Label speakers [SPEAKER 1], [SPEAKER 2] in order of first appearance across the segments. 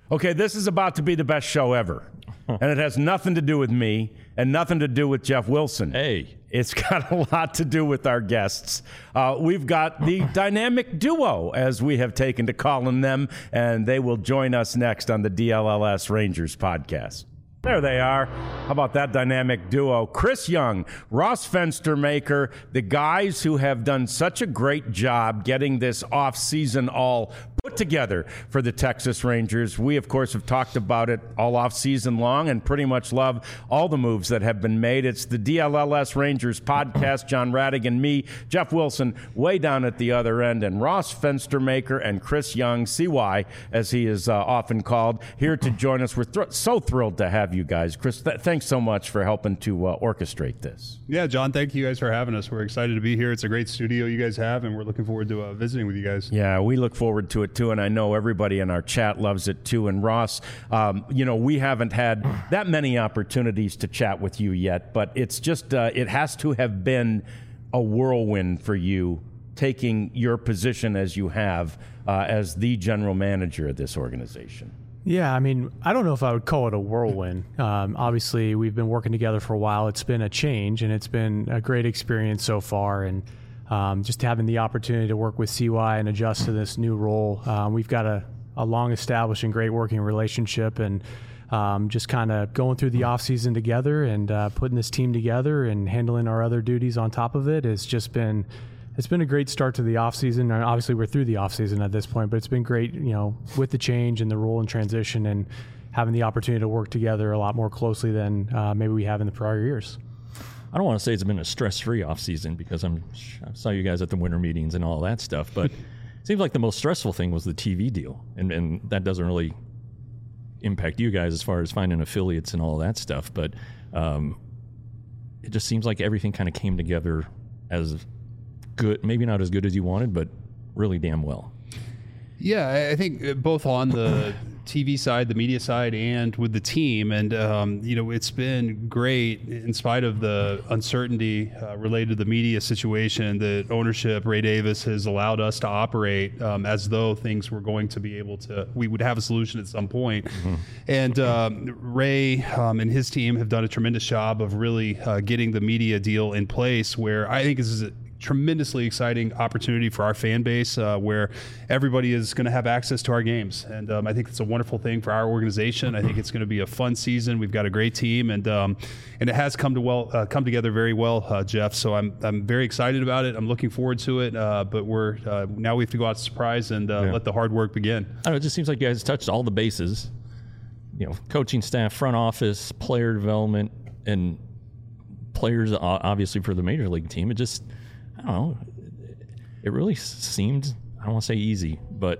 [SPEAKER 1] Okay, this is about to be the best show ever. And it has nothing to do with me and nothing to do with Jeff Wilson.
[SPEAKER 2] Hey.
[SPEAKER 1] It's got a lot to do with our guests. We've got the dynamic duo, as we have taken to calling them, and they will join us next on the DLLS Rangers podcast. There they are. How about that dynamic duo? Chris Young, Ross Fenstermaker, the guys who have done such a great job getting this offseason all put together for the Texas Rangers. We, of course, have talked about it all offseason long and pretty much love all the moves that have been made. It's the DLLS Rangers podcast. John Radigan, me, Jeff Wilson, way down at the other end, and Ross Fenstermaker and Chris Young, CY, as he is often called, here to join us. We're so thrilled to have you guys. Chris, thanks so much for helping to orchestrate this.
[SPEAKER 3] Yeah, John, thank you guys for having us. We're excited to be here. It's a great studio you guys have, and we're looking forward to visiting with you guys.
[SPEAKER 1] Yeah, we look forward to it too, and I know everybody in our chat loves it too. And Ross, we haven't had that many opportunities to chat with you yet, but it's just it has to have been a whirlwind for you taking your position as you have as the general manager of this organization.
[SPEAKER 4] Yeah, I mean, I don't know if I would call it a whirlwind. Obviously, we've been working together for a while. It's been a change, and it's been a great experience so far. And just having the opportunity to work with CY and adjust to this new role, we've got a long-established and great working relationship, and just kind of going through the off-season together and putting this team together and handling our other duties on top of it has just been... It's been a great start to the offseason. Obviously, we're through the offseason at this point, but it's been great, with the change and the role and transition and having the opportunity to work together a lot more closely than maybe we have in the prior years.
[SPEAKER 2] I don't want to say it's been a stress-free offseason because I saw you guys at the winter meetings and all that stuff, but it seems like the most stressful thing was the TV deal, and that doesn't really impact you guys as far as finding affiliates and all that stuff, but it just seems like everything kind of came together as good, maybe not as good as you wanted, but really damn well.
[SPEAKER 3] Yeah, I think both on the TV side, the media side, and with the team. And, it's been great in spite of the uncertainty related to the media situation that ownership, Ray Davis, has allowed us to operate as though things were going to be able to, we would have a solution at some point. Mm-hmm. And Ray and his team have done a tremendous job of really getting the media deal in place, where I think this is tremendously exciting opportunity for our fan base, where everybody is going to have access to our games. And I think it's a wonderful thing for our organization. I think it's going to be a fun season. We've got a great team, and it has come together very well, Jeff. So I'm very excited about it. I'm looking forward to it. But we're now we have to go out surprise and let the hard work begin.
[SPEAKER 2] I don't know, it just seems like you guys touched all the bases. Coaching staff, front office, player development, and players obviously for the major league team. It just, I don't know. It really seemed, I don't want to say easy, but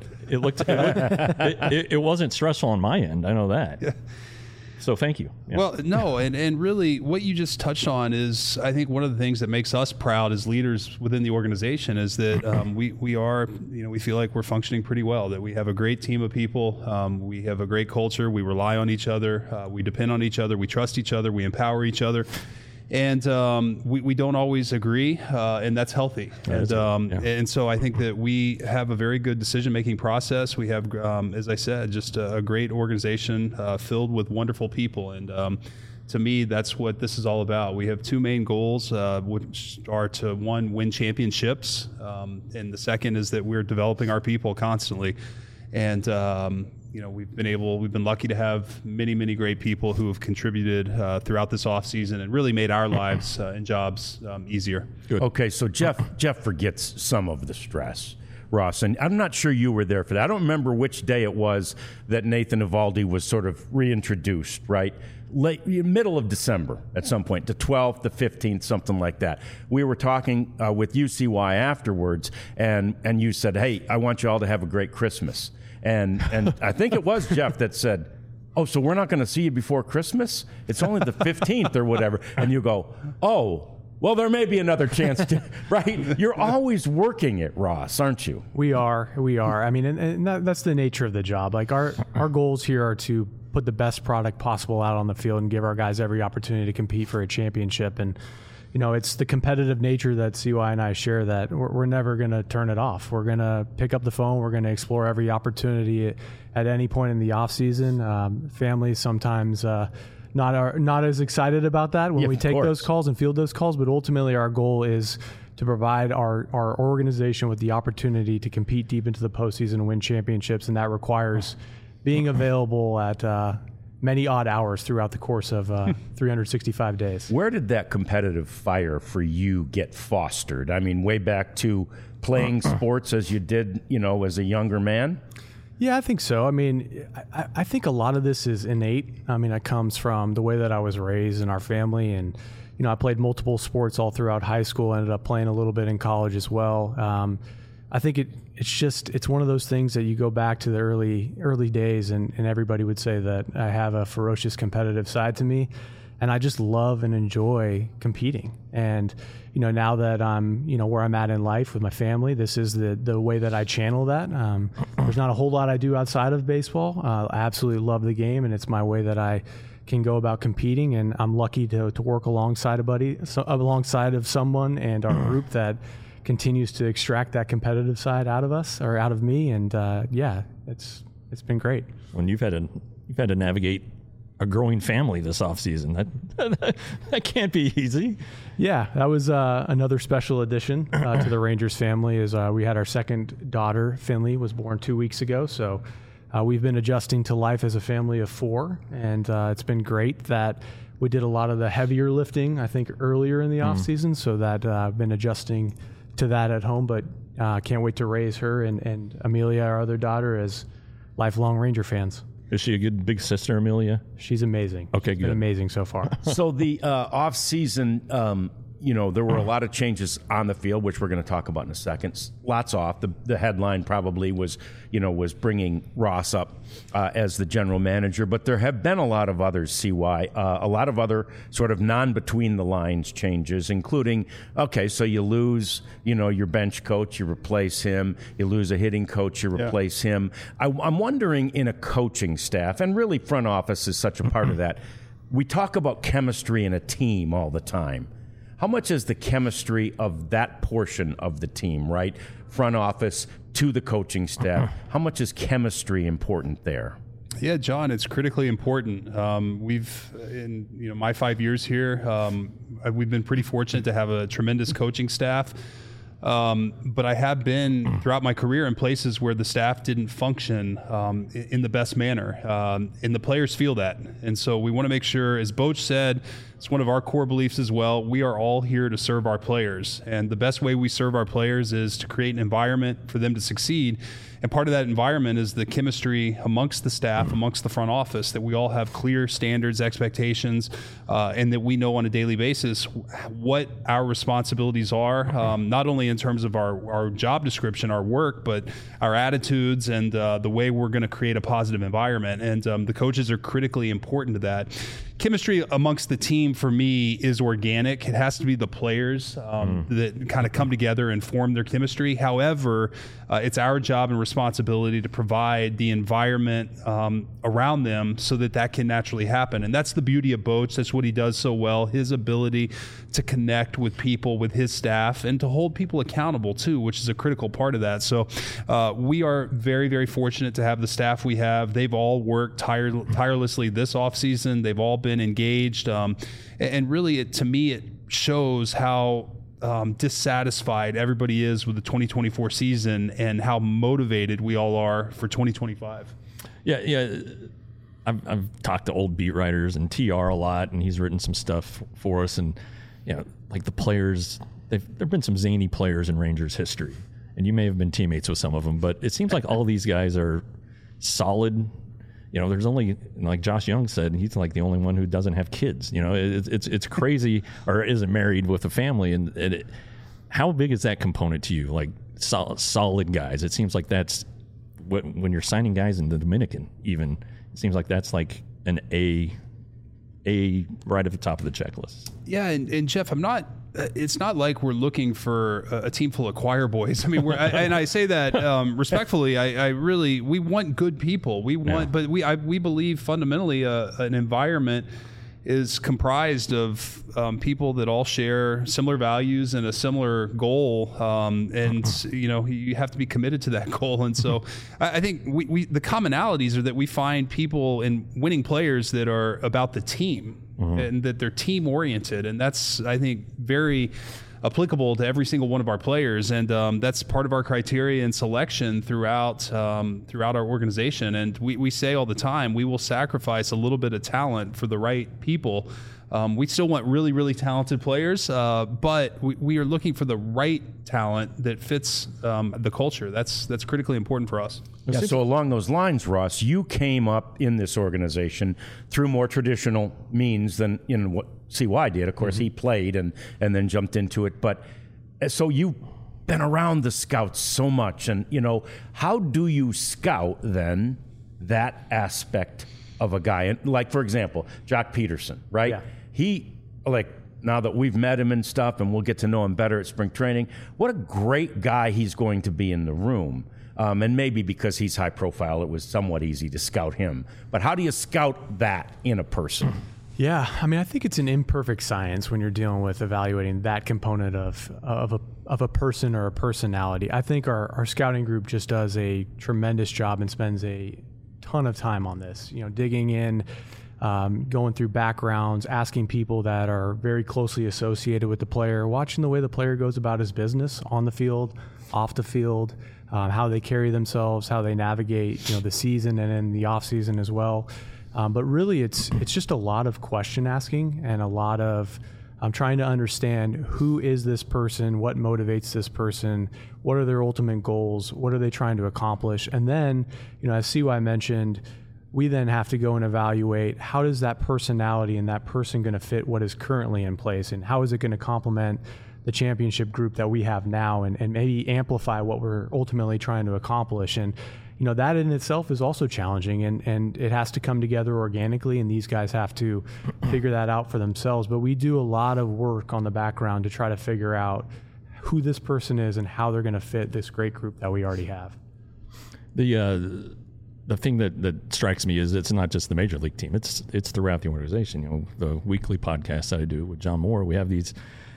[SPEAKER 2] it wasn't stressful on my end. I know that. Yeah. So thank you. Yeah.
[SPEAKER 3] Well, no, and really what you just touched on is, I think, one of the things that makes us proud as leaders within the organization is that we are, we feel like we're functioning pretty well, that we have a great team of people. We have a great culture. We rely on each other. We depend on each other. We trust each other. We empower each other. And we don't always agree, and that's healthy. And so I think that we have a very good decision-making process. We have, as I said, just a great organization filled with wonderful people. And to me, that's what this is all about. We have two main goals, which are to, one, win championships, and the second is that we're developing our people constantly. And we've been lucky to have many, many great people who have contributed throughout this off season and really made our lives and jobs easier.
[SPEAKER 1] Good. Okay, so Jeff forgets some of the stress, Ross, and I'm not sure you were there for that. I don't remember which day it was that Nathan Eovaldi was sort of reintroduced, right? Middle of December at some point, the 12th, the 15th, something like that. We were talking with UCY afterwards, and you said, hey, I want you all to have a great Christmas. And I think it was Jeff that said, oh, so we're not going to see you before Christmas? It's only the 15th or whatever. And you go, oh, well, there may be another chance to, right? You're always working it, Ross, aren't you?
[SPEAKER 4] We are. I mean, and that's the nature of the job. Like our goals here are to put the best product possible out on the field and give our guys every opportunity to compete for a championship. And it's the competitive nature that CY and I share that we're never going to turn it off. We're going to pick up the phone. We're going to explore every opportunity at any point in the off season. Families sometimes not as excited about that when we take those calls and field those calls, but ultimately our goal is to provide our organization with the opportunity to compete deep into the postseason and win championships, and that requires being available at many odd hours throughout the course of 365 days.
[SPEAKER 1] Where did that competitive fire for you get fostered? I mean, way back to playing sports as you did, as a younger man?
[SPEAKER 4] Yeah, I think so. I mean, I think a lot of this is innate. I mean, it comes from the way that I was raised in our family, and I played multiple sports all throughout high school, ended up playing a little bit in college as well. I think it's one of those things that you go back to the early days, and everybody would say that I have a ferocious competitive side to me, and I just love and enjoy competing. And now that I'm where I'm at in life with my family, this is the way that I channel that. There's not a whole lot I do outside of baseball. I absolutely love the game, and it's my way that I can go about competing, and I'm lucky to work alongside of someone and our group that continues to extract that competitive side out of us or out of me, and it's been great.
[SPEAKER 2] When you've had to navigate a growing family this offseason, that can't be easy.
[SPEAKER 4] Yeah, that was another special addition to the Rangers family. Is we had our second daughter, Finley, was born 2 weeks ago, so we've been adjusting to life as a family of four, and it's been great that we did a lot of the heavier lifting, I think, earlier in the off season, so that I've been adjusting to that at home, but can't wait to raise her and Amelia, our other daughter, as lifelong Ranger fans.
[SPEAKER 2] Is she a good big sister, Amelia?
[SPEAKER 4] She's amazing.
[SPEAKER 2] Okay,
[SPEAKER 4] She's
[SPEAKER 2] good.
[SPEAKER 4] been amazing so far.
[SPEAKER 1] So the off season, there were a lot of changes on the field, which we're going to talk about in a second. Lots off. The headline probably was bringing Ross up as the general manager, but there have been a lot of others, CY, a lot of other sort of non-between-the-lines changes, including, so you lose, your bench coach, you replace him. You lose a hitting coach, you replace him. I'm wondering, in a coaching staff, and really front office is such a part of that, we talk about chemistry in a team all the time. How much is the chemistry of that portion of the team, right? Front office to the coaching staff. How much is chemistry important there?
[SPEAKER 3] Yeah, John, it's critically important. We've, in my 5 years here, we've been pretty fortunate to have a tremendous coaching staff. But I have been throughout my career in places where the staff didn't function in the best manner, and the players feel that. And so we want to make sure, as Boch said, it's one of our core beliefs as well, we are all here to serve our players. And the best way we serve our players is to create an environment for them to succeed. And part of that environment is the chemistry amongst the staff, amongst the front office, that we all have clear standards, expectations, and that we know on a daily basis what our responsibilities are, not only in terms of our job description, our work, but our attitudes and the way we're going to create a positive environment. And the coaches are critically important to that. Chemistry amongst the team, for me, is organic. It has to be the players that kind of come together and form their chemistry. However, it's our job and responsibility to provide the environment around them so that can naturally happen. And that's the beauty of Boch. That's what he does so well, his ability to connect with people, with his staff, and to hold people accountable too, which is a critical part of that. So we are very, very fortunate to have the staff we have. They've all worked tirelessly this offseason. They've all been engaged. And really, to me, it shows how dissatisfied everybody is with the 2024 season and how motivated we all are for 2025.
[SPEAKER 2] Yeah. I've talked to old beat writers and TR a lot, and he's written some stuff for us. And like the players, there've been some zany players in Rangers history, and you may have been teammates with some of them, but it seems like all these guys are solid. There's only, like Josh Young said, he's like the only one who doesn't have kids. It's crazy, or isn't married with a family. And how big is that component to you? Like solid guys. It seems like that's when you're signing guys in the Dominican, even it seems like that's like an A right at the top of the checklist.
[SPEAKER 3] Yeah, and Jeff, it's not like we're looking for a team full of choir boys. I mean, and I say that respectfully. We want good people. But we believe fundamentally an environment is comprised of people that all share similar values and a similar goal, and you have to be committed to that goal. And so I think the commonalities are that we find people in winning players that are about the team, and that they're team oriented, and that's, I think, very applicable to every single one of our players, and that's part of our criteria and selection throughout our organization. And we say all the time, we will sacrifice a little bit of talent for the right people. We still want really, really talented players, but we are looking for the right talent that fits the culture. That's critically important for us.
[SPEAKER 1] Yeah, so along those lines, Ross, you came up in this organization through more traditional means than what CY did. Of course, he played and then jumped into it. But so you've been around the scouts so much, and how do you scout then that aspect of a guy? And like, for example, Jock Peterson, right? Yeah. He, now that we've met him and stuff, and we'll get to know him better at spring training, what a great guy he's going to be in the room. And maybe because he's high profile, it was somewhat easy to scout him. But how do you scout that in a person?
[SPEAKER 4] Yeah, I mean, I think it's an imperfect science when you're dealing with evaluating that component of a person or a personality. I think our scouting group just does a tremendous job and spends a ton of time on this. Digging in, going through backgrounds, asking people that are very closely associated with the player, watching the way the player goes about his business on the field, off the field, how they carry themselves, how they navigate, the season and in the off season as well. But really, it's just a lot of question asking and a lot of trying to understand who is this person, what motivates this person, what are their ultimate goals, what are they trying to accomplish, and then, as CY mentioned, we then have to go and evaluate how does that personality and that person going to fit what is currently in place, and how is it going to complement the championship group that we have now, and maybe amplify what we're ultimately trying to accomplish. And that in itself is also challenging, and it has to come together organically, and these guys have to figure that out for themselves. But we do a lot of work on the background to try to figure out who this person is and how they're going to fit this great group that we already have.
[SPEAKER 2] The thing that strikes me is it's not just the major league team. It's throughout the organization. The weekly podcast that I do with John Moore, we have these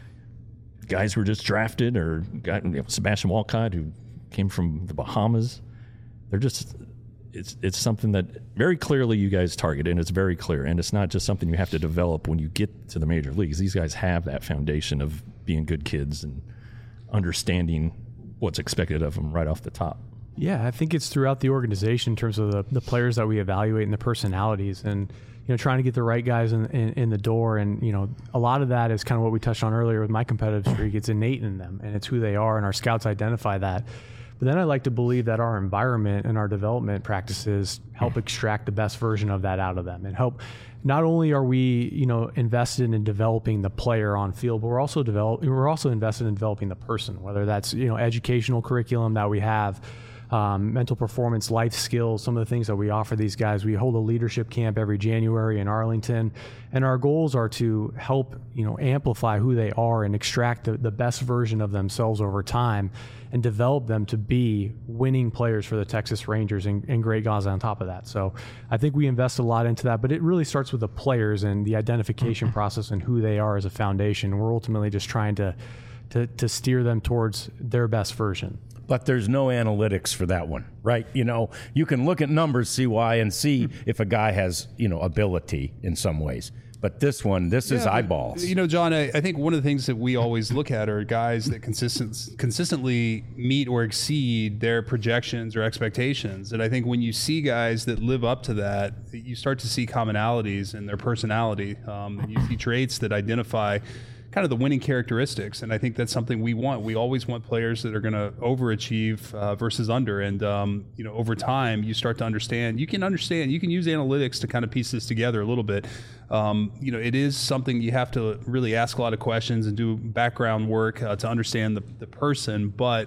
[SPEAKER 2] guys who were just drafted, or Sebastian Walcott, who came from the Bahamas. They're just, it's something that very clearly you guys target, and it's very clear, and it's not just something you have to develop when you get to the major leagues. These guys have that foundation of being good kids and understanding what's expected of them right off the top.
[SPEAKER 4] Yeah, I think it's throughout the organization in terms of the players that we evaluate and the personalities, and trying to get the right guys in the door. And a lot of that is kind of what we touched on earlier with my competitive streak. It's innate in them, and it's who they are, and our scouts identify that. But then I like to believe that our environment and our development practices help extract the best version of that out of them, and help. Not only are we, invested in developing the player on field, but we're also invested in developing the person, whether that's, educational curriculum that we have, mental performance, life skills, some of the things that we offer these guys. We hold a leadership camp every January in Arlington, and our goals are to help, amplify who they are and extract the best version of themselves over time, and develop them to be winning players for the Texas Rangers and great guys on top of that. So I think we invest a lot into that, but it really starts with the players and the identification process and who they are as a foundation. We're ultimately just trying to steer them towards their best version.
[SPEAKER 1] But there's no analytics for that one, right? You can look at numbers, CY, and see if a guy has, ability in some ways. But this is eyeballs.
[SPEAKER 3] John, I think one of the things that we always look at are guys that consistently meet or exceed their projections or expectations. And I think when you see guys that live up to that, you start to see commonalities in their personality. And you see traits that identify kind of the winning characteristics. And I think that's something we want. We always want players that are going to overachieve versus under. And, over time, you start to understand. You can use analytics to kind of piece this together a little bit. It is something you have to really ask a lot of questions and do background work to understand the person. But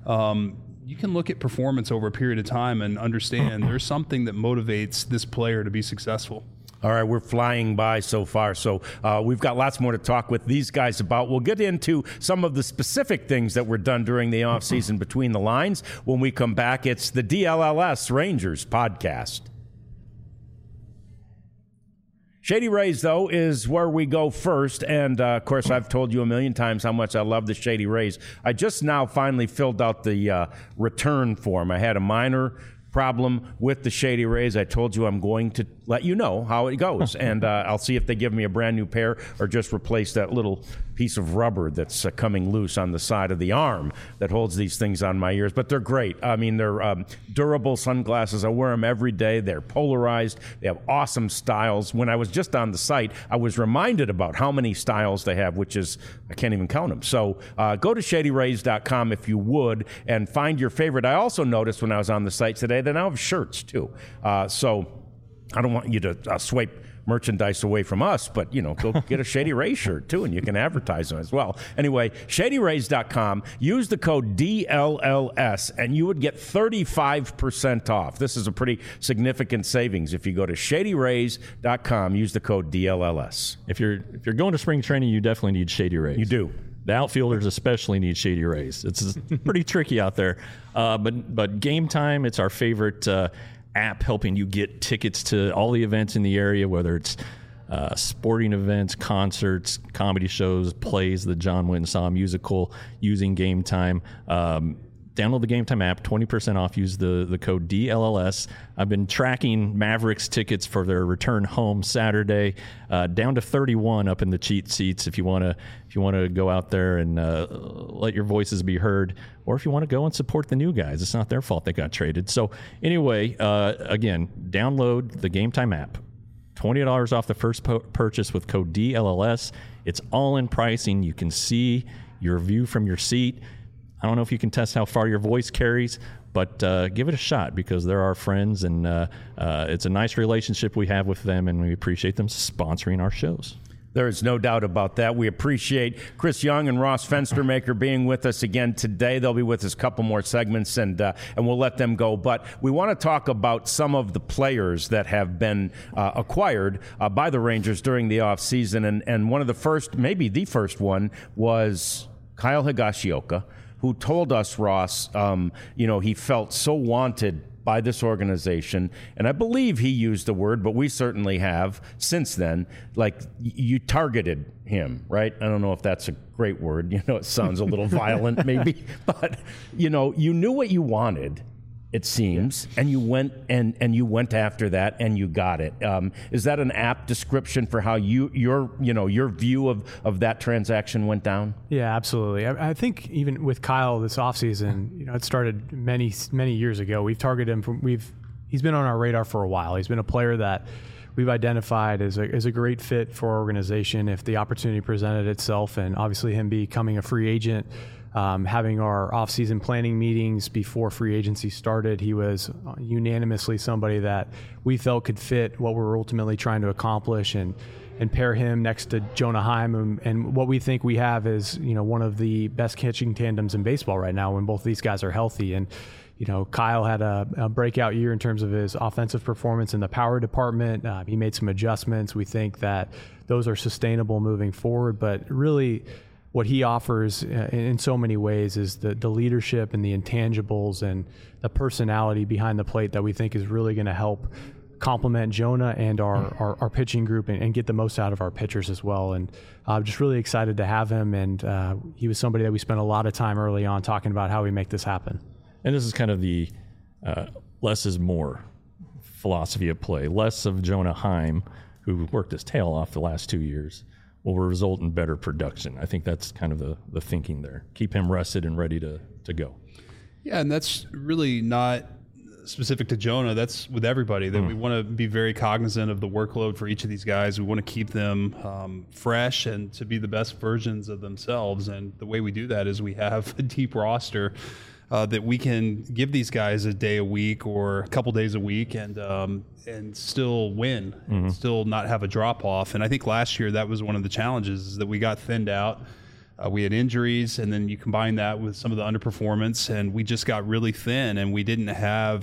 [SPEAKER 3] you can look at performance over a period of time and understand there's something that motivates this player to be successful.
[SPEAKER 1] All right, we're flying by so far, so we've got lots more to talk with these guys about. We'll get into some of the specific things that were done during the offseason between the lines. When we come back, it's the DLLS Rangers podcast. Shady Rays, though, is where we go first. And, of course, I've told you a million times how much I love the Shady Rays. I just now finally filled out the return form. I had a minor problem with the Shady Rays. I told you I'm going to let you know how it goes. And I'll see if they give me a brand new pair or just replace that little piece of rubber that's coming loose on the side of the arm that holds these things on my ears. But they're great. I mean, they're durable sunglasses. I wear them every day. They're polarized. They have awesome styles. When I was just on the site, I was reminded about how many styles they have, which is, I can't even count them. So go to ShadyRays.com if you would and find your favorite. I also noticed when I was on the site today that I have shirts too. So I don't want you to swipe merchandise away from us, but, you know, go get a Shady Rays shirt too, and you can advertise them as well. Anyway, ShadyRays.com, use the code DLLS, and you would get 35% off. This is a pretty significant savings. If you go to ShadyRays.com, use the code DLLS.
[SPEAKER 2] If you're going to spring training, you definitely need Shady Rays.
[SPEAKER 1] You do.
[SPEAKER 2] The outfielders especially need Shady Rays. It's pretty tricky out there. But Game Time, it's our favorite app helping you get tickets to all the events in the area, whether it's sporting events, concerts, comedy shows, plays, the John Wynn Saw musical, using Game Time. Download the Game Time app, 20% off. Use the code DLLS. I've been tracking Mavericks tickets for their return home Saturday, down to 31 up in the cheat seats. If you want to go out there and let your voices be heard, or if you want to go and support the new guys, it's not their fault they got traded. So anyway, again, download the Game Time app. $20 off the first purchase with code DLLS. It's all in pricing. You can see your view from your seat. I don't know if you can test how far your voice carries, but give it a shot because they're our friends, and it's a nice relationship we have with them, and we appreciate them sponsoring our shows.
[SPEAKER 1] There is no doubt about that. We appreciate Chris Young and Ross Fenstermaker being with us again today. They'll be with us a couple more segments, and we'll let them go. But we want to talk about some of the players that have been acquired by the Rangers during the offseason. And one of the first, maybe the first one, was Kyle Higashioka, who told us, Ross, he felt so wanted by this organization. And I believe he used the word, but we certainly have since then, like you targeted him, right? I don't know if that's a great word. It sounds a little violent maybe, but, you knew what you wanted, it seems, and you went and you went after that and you got it. Is that an apt description for how your view of that transaction went down?
[SPEAKER 4] Yeah, absolutely. I think even with Kyle this offseason, it started many years ago. We've targeted him he's been on our radar for a while. He's been a player that we've identified as a great fit for our organization if the opportunity presented itself, and obviously him becoming a free agent. Having our off-season planning meetings before free agency started, he was unanimously somebody that we felt could fit what we're ultimately trying to accomplish, and pair him next to Jonah Heim. And what we think we have is, one of the best catching tandems in baseball right now when both these guys are healthy. And, Kyle had a breakout year in terms of his offensive performance in the power department. He made some adjustments. We think that those are sustainable moving forward, but really, what he offers in so many ways is the leadership and the intangibles and the personality behind the plate that we think is really going to help complement Jonah and our pitching group and get the most out of our pitchers as well. And I'm just really excited to have him. And he was somebody that we spent a lot of time early on talking about how we make this happen.
[SPEAKER 2] And this is kind of the less is more philosophy of play. Less of Jonah Heim, who worked his tail off the last 2 years, will result in better production. I think that's kind of the thinking there. Keep him rested and ready to go.
[SPEAKER 3] Yeah, and that's really not specific to Jonah. That's with everybody, that we want to be very cognizant of the workload for each of these guys. We want to keep them fresh and to be the best versions of themselves. And the way we do that is we have a deep roster that we can give these guys a day a week or a couple days a week and still win and still not have a drop off. And I think last year that was one of the challenges, is that we got thinned out. We had injuries, and then you combine that with some of the underperformance, and we just got really thin, and we didn't have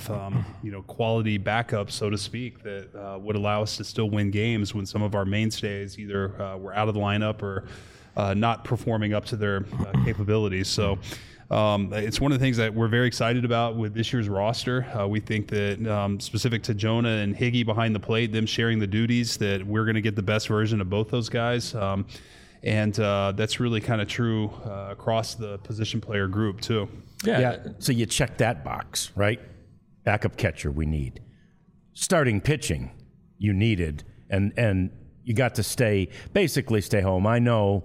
[SPEAKER 3] quality backup, so to speak, that would allow us to still win games when some of our mainstays either were out of the lineup or not performing up to their capabilities. So It's one of the things that we're very excited about with this year's roster. We think that specific to Jonah and Higgy behind the plate, them sharing the duties, that we're going to get the best version of both those guys. And that's really kind of true across the position player group too.
[SPEAKER 1] Yeah. So you check that box, right? Backup catcher we need. Starting pitching you needed, and you got to basically stay home. I know,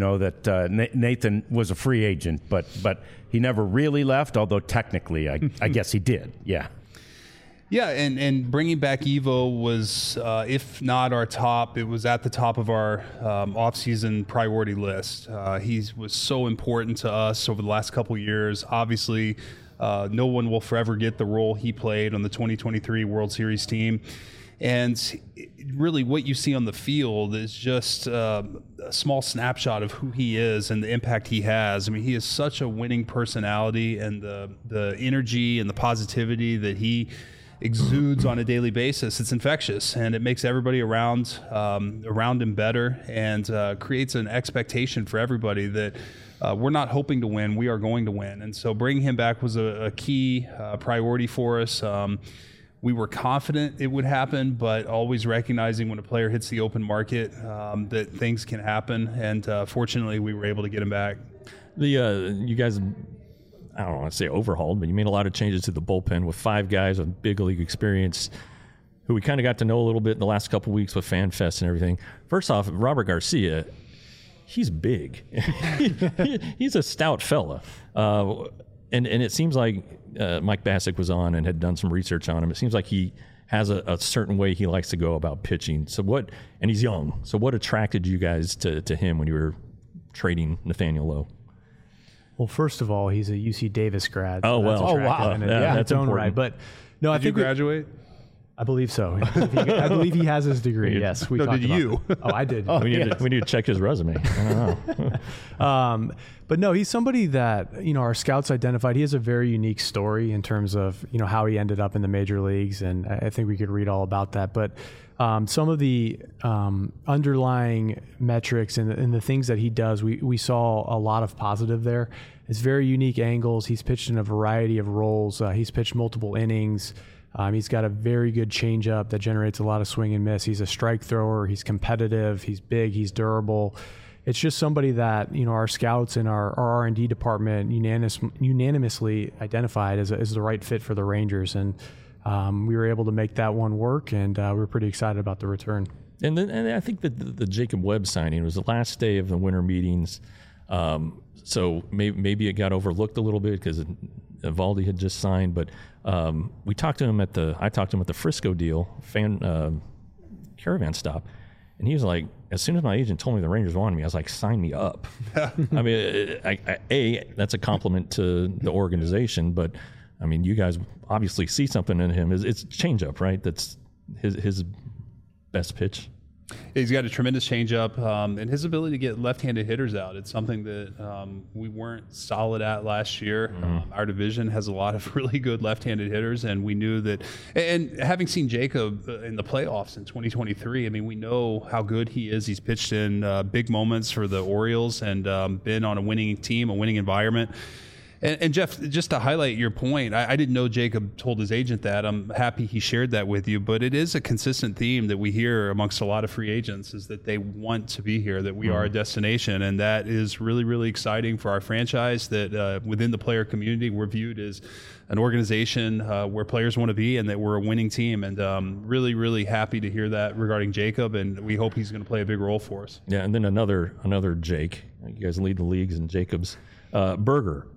[SPEAKER 1] that Nathan was a free agent, but he never really left, although technically I guess he did. Yeah.
[SPEAKER 3] Yeah, and bringing back Evo was, if not our top, it was at the top of our offseason priority list. He was so important to us over the last couple of years. Obviously, no one will forever get the role he played on the 2023 World Series team. And really what you see on the field is just a small snapshot of who he is and the impact he has. I mean, he is such a winning personality, and the energy and the positivity that he exudes on a daily basis, it's infectious, and it makes everybody around him better, and creates an expectation for everybody that we're not hoping to win, we are going to win. And so bringing him back was a key priority for us. We were confident it would happen, but always recognizing when a player hits the open market that things can happen, and fortunately we were able to get him back.
[SPEAKER 2] You guys, I don't want to say overhauled, but you made a lot of changes to the bullpen with 5 guys with big league experience who we kind of got to know a little bit in the last couple of weeks with FanFest and everything. First off, Robert Garcia, he's big. He's a stout fella. And it seems like Mike Bassick was on and had done some research on him. It seems like he has a certain way he likes to go about pitching. And he's young. So what attracted you guys to him when you were trading Nathaniel Lowe?
[SPEAKER 4] Well, first of all, he's a UC Davis grad.
[SPEAKER 2] Oh, well.
[SPEAKER 4] Oh, wow.
[SPEAKER 2] That's important.
[SPEAKER 4] Right. But no,
[SPEAKER 3] Did you graduate?
[SPEAKER 4] I believe so. I believe he has his degree. Yes.
[SPEAKER 3] Did you?
[SPEAKER 4] Oh, I did.
[SPEAKER 2] We need to check his resume. I don't
[SPEAKER 4] know. But no, he's somebody that, our scouts identified. He has a very unique story in terms of, how he ended up in the major leagues. And I think we could read all about that. But some of the underlying metrics and the things that he does, we saw a lot of positive there. It's very unique angles. He's pitched in a variety of roles. He's pitched multiple innings. He's got a very good changeup that generates a lot of swing and miss. He's a strike thrower. He's competitive. He's big. He's durable. It's just somebody that, our scouts and our R&D department unanimously identified as the right fit for the Rangers. And we were able to make that one work, and we're pretty excited about the return.
[SPEAKER 2] And I think that the Jacob Webb signing was the last day of the winter meetings. So maybe it got overlooked a little bit because Eovaldi had just signed, but I talked to him at the Frisco deal caravan stop, and he was like, as soon as my agent told me the Rangers wanted me, I was like, sign me up. I mean, that's a compliment to the organization, but I mean, you guys obviously see something in him. It's changeup, right? That's his best pitch.
[SPEAKER 3] He's got a tremendous changeup, and his ability to get left-handed hitters out. It's something that we weren't solid at last year. Our division has a lot of really good left-handed hitters, and we knew that. And having seen Jacob in the playoffs in 2023, I mean, we know how good he is. He's pitched in big moments for the Orioles and been on a winning team, a winning environment. And Jeff, just to highlight your point, I didn't know Jacob told his agent that. I'm happy he shared that with you. But it is a consistent theme that we hear amongst a lot of free agents is that they want to be here, that we are a destination. And that is really, really exciting for our franchise, that within the player community, we're viewed as an organization where players want to be and that we're a winning team. And really, really happy to hear that regarding Jacob. And we hope he's going to play a big role for us.
[SPEAKER 2] Yeah, and then another Jake. You guys lead the leagues in Jacobs. Berger.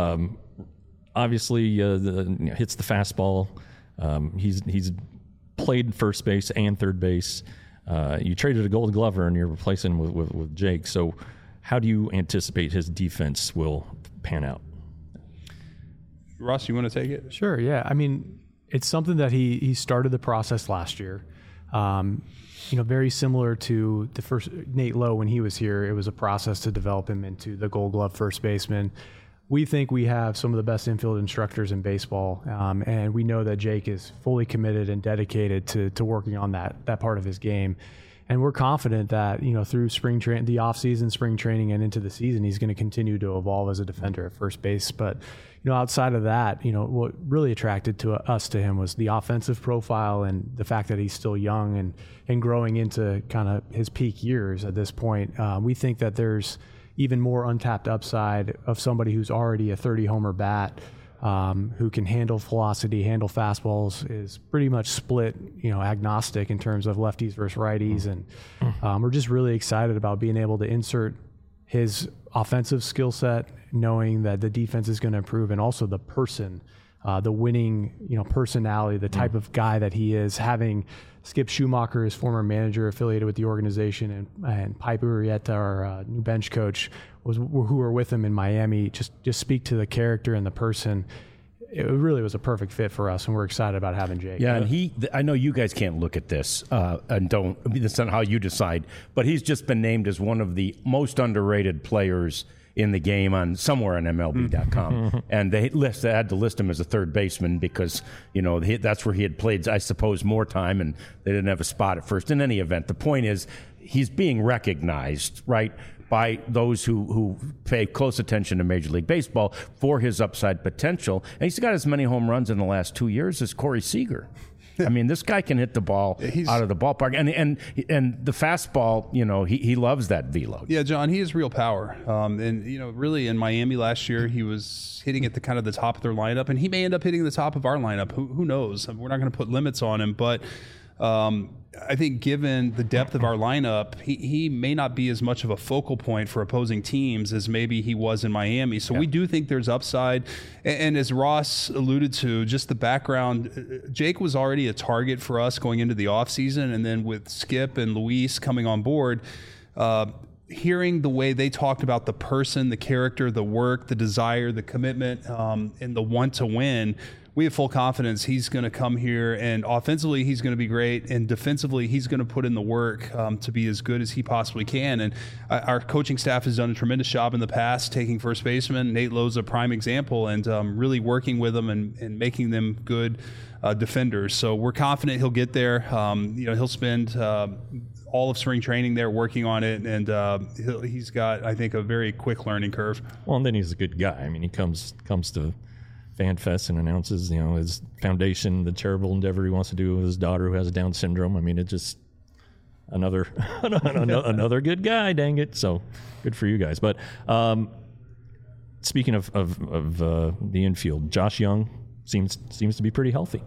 [SPEAKER 2] Obviously hits the fastball. He's played first base and third base. You traded a Gold Glover and you're replacing him with Jake. So how do you anticipate his defense will pan out?
[SPEAKER 3] Ross, you want to take it?
[SPEAKER 4] Sure. Yeah. I mean, it's something that he started the process last year. Very similar to the first Nate Lowe when he was here. It was a process to develop him into the Gold Glove first baseman. We think we have some of the best infield instructors in baseball, and we know that Jake is fully committed and dedicated to working on that part of his game. And we're confident that, through the offseason, spring training, and into the season, he's going to continue to evolve as a defender at first base. But, outside of that, what really attracted to him was the offensive profile and the fact that he's still young and growing into kind of his peak years at this point. We think that there's even more untapped upside of somebody who's already a 30-homer bat, who can handle velocity, handle fastballs, is pretty much split, agnostic in terms of lefties versus righties. And we're just really excited about being able to insert his offensive skill set, knowing that the defense is going to improve, and also the person, the winning, personality, the type of guy that he is, having Skip Schumacher, his former manager affiliated with the organization, and Pipe Urrieta, our new bench coach, who were with him in Miami, just speak to the character and the person. It really was a perfect fit for us, and we're excited about having Jake.
[SPEAKER 1] Yeah, and I know you guys can't look at this and that's not how you decide, but he's just been named as one of the most underrated players in the game somewhere on MLB.com. And they had to list him as a third baseman because, that's where he had played, I suppose, more time, and they didn't have a spot at first. In any event, the point is he's being recognized, right, by those who pay close attention to Major League Baseball for his upside potential. And he's got as many home runs in the last 2 years as Corey Seager. I mean, this guy can hit the ball out of the ballpark, and the fastball. He loves that velo.
[SPEAKER 3] Yeah, John, he has real power. And really in Miami last year, he was hitting at the kind of the top of their lineup, and he may end up hitting the top of our lineup. Who knows? We're not going to put limits on him, but I think given the depth of our lineup, he may not be as much of a focal point for opposing teams as maybe he was in Miami. So we do think there's upside. And as Ross alluded to, just the background, Jake was already a target for us going into the offseason. And then with Skip and Luis coming on board, hearing the way they talked about the person, the character, the work, the desire, the commitment, and the want to win, we have full confidence he's going to come here, and offensively he's going to be great, and defensively he's going to put in the work to be as good as he possibly can. And our coaching staff has done a tremendous job in the past taking first baseman. Nate Lowe's a prime example, and really working with them and making them good defenders. So we're confident he'll get there. He'll spend all of spring training there working on it, and he's got, I think, a very quick learning curve.
[SPEAKER 2] Well, and then he's a good guy. I mean, he comes to FanFest and announces, his foundation, the charitable endeavor he wants to do with his daughter who has Down syndrome. I mean, it's just another good guy, dang it. So good for you guys. But speaking of the infield, Josh Young seems to be pretty healthy.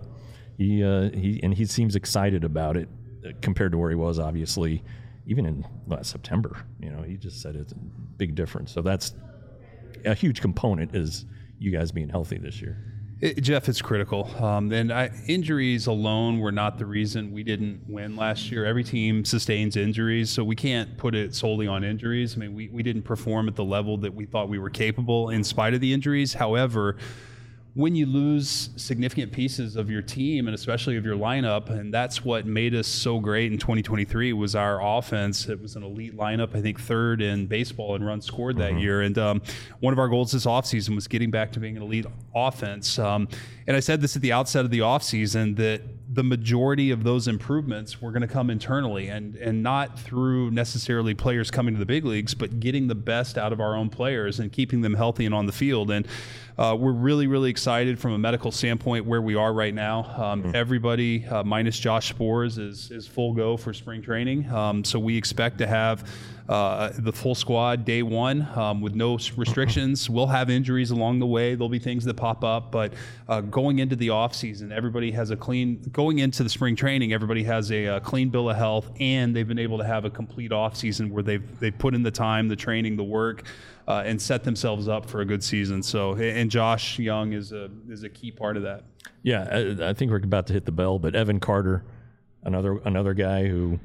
[SPEAKER 2] He seems excited about it compared to where he was, obviously, even in September. He just said it's a big difference. So that's a huge component, is you guys being healthy this year.
[SPEAKER 3] Jeff, it's critical. And injuries alone were not the reason we didn't win last year. Every team sustains injuries, so we can't put it solely on injuries. I mean, we didn't perform at the level that we thought we were capable in spite of the injuries. However, when you lose significant pieces of your team and especially of your lineup, and that's what made us so great in 2023 was our offense. It was an elite lineup, I think third in baseball in runs scored that year. And one of our goals this offseason was getting back to being an elite offense. And I said this at the outset of the offseason, that the majority of those improvements were going to come internally and not through necessarily players coming to the big leagues, but getting the best out of our own players and keeping them healthy and on the field. And we're really, really excited from a medical standpoint where we are right now. Everybody minus Josh Spores is full go for spring training. So we expect to have the full squad day one with no restrictions. We'll have injuries along the way. There'll be things that pop up, but going into the off season, everybody has going into the spring training, everybody has a clean bill of health, and they've been able to have a complete off season where they've put in the time, the training, the work, and set themselves up for a good season. So, and Josh Young is a key part of that.
[SPEAKER 2] Yeah, I think we're about to hit the bell, but Evan Carter, another guy who,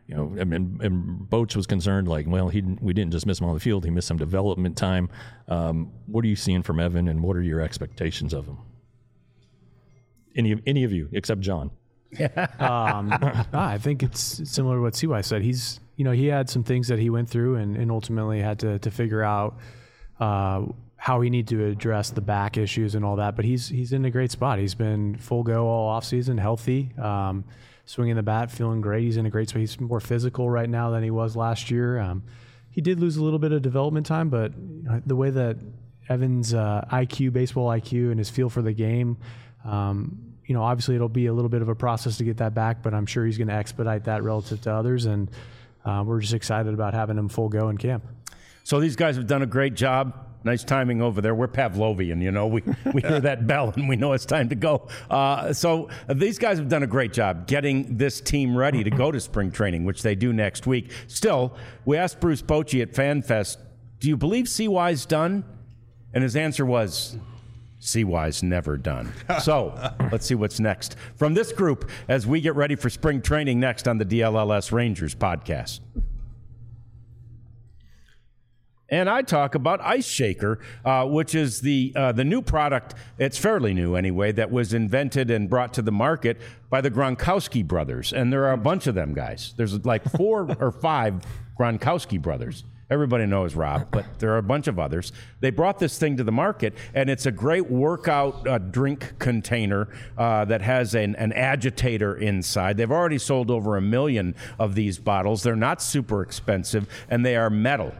[SPEAKER 2] and Boach was concerned, like, well, we didn't just miss him on the field, he missed some development time. What are you seeing from Evan, and what are your expectations of him? Any of you except John?
[SPEAKER 4] I think it's similar to what CY said. He's, he had some things that he went through and ultimately had to figure out how he needed to address the back issues and all that. But he's in a great spot. He's been full go all offseason, healthy. swinging the bat, feeling great. He's in a great spot. He's more physical right now than he was last year. He did lose a little bit of development time, but the way that Evan's baseball IQ, and his feel for the game, obviously it'll be a little bit of a process to get that back, but I'm sure he's going to expedite that relative to others, and we're just excited about having him full go in camp.
[SPEAKER 1] So these guys have done a great job. Nice timing over there. We're Pavlovian, we hear that bell and we know it's time to go. So these guys have done a great job getting this team ready to go to spring training, which they do next week. Still, we asked Bruce Bochy at FanFest, do you believe CY's done? And his answer was, CY's never done. So let's see what's next from this group as we get ready for spring training next on the DLLS Rangers podcast. And I talk about Ice Shaker, which is the new product. It's fairly new anyway, that was invented and brought to the market by the Gronkowski brothers. And there are a bunch of them guys. There's like 4 or 5 Gronkowski brothers. Everybody knows Rob, but there are a bunch of others. They brought this thing to the market, and it's a great workout drink container that has an agitator inside. They've already sold over 1 million of these bottles. They're not super expensive, and they are metal.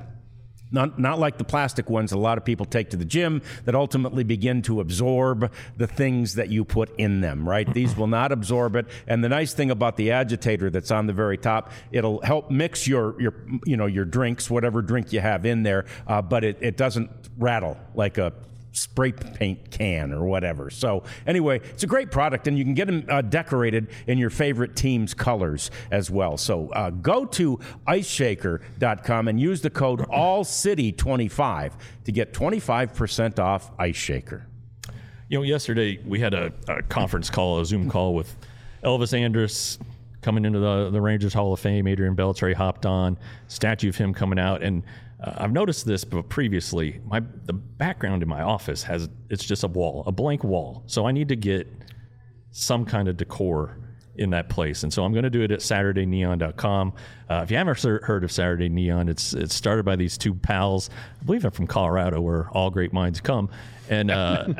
[SPEAKER 1] Not like the plastic ones a lot of people take to the gym that ultimately begin to absorb the things that you put in them, right? These will not absorb it. And the nice thing about the agitator that's on the very top, it'll help mix your drinks, whatever drink you have in there, but it doesn't rattle like a spray paint can or whatever. So anyway, it's a great product, and you can get them decorated in your favorite team's colors as well. So go to iceshaker.com and use the code ALLCITY25 to get 25% off Ice Shaker.
[SPEAKER 2] Yesterday we had a conference call, a Zoom call with Elvis Andrus coming into the Rangers Hall of Fame. Adrian Beltre hopped on, statue of him coming out, and I've noticed this, but previously, the background in my office it's just a blank wall. So I need to get some kind of decor in that place. And so I'm going to do it at SaturdayNeon.com. If you haven't heard of Saturday Neon, it's started by these 2 pals. I believe they're from Colorado, where all great minds come. And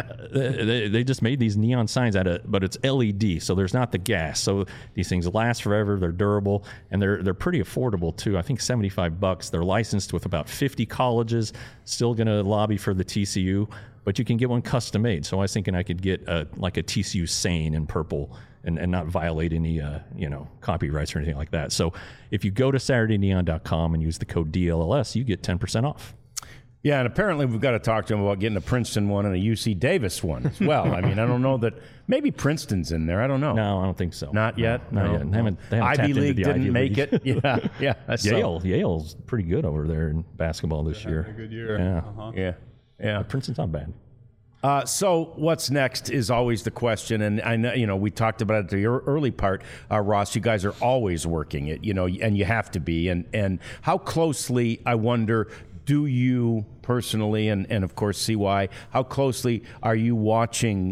[SPEAKER 2] they just made these neon signs but it's LED, so there's not the gas. So these things last forever. They're durable, and they're pretty affordable too. I think $75. They're licensed with about 50 colleges. Still going to lobby for the TCU, but you can get one custom made. So I was thinking I could get a TCU Sane in purple and not violate any copyrights or anything like that. So if you go to SaturdayNeon.com and use the code DLLS, you get 10% off.
[SPEAKER 1] Yeah, and apparently we've got to talk to him about getting a Princeton one and a UC Davis one as well. I mean, I don't know that maybe Princeton's in there. I don't know.
[SPEAKER 2] No, I don't think so.
[SPEAKER 1] Not yet.
[SPEAKER 2] Not yet. They haven't
[SPEAKER 1] Ivy League didn't make it. Yeah.
[SPEAKER 2] Yale's pretty good over there in basketball this year.
[SPEAKER 3] A good year.
[SPEAKER 2] Yeah.
[SPEAKER 3] Uh-huh.
[SPEAKER 1] Yeah.
[SPEAKER 2] Princeton's not bad.
[SPEAKER 1] So what's next is always the question, and I know we talked about it at the early part, Ross. You guys are always working it, and you have to be. And how closely, I wonder, do you personally, and of course CY, how closely are you watching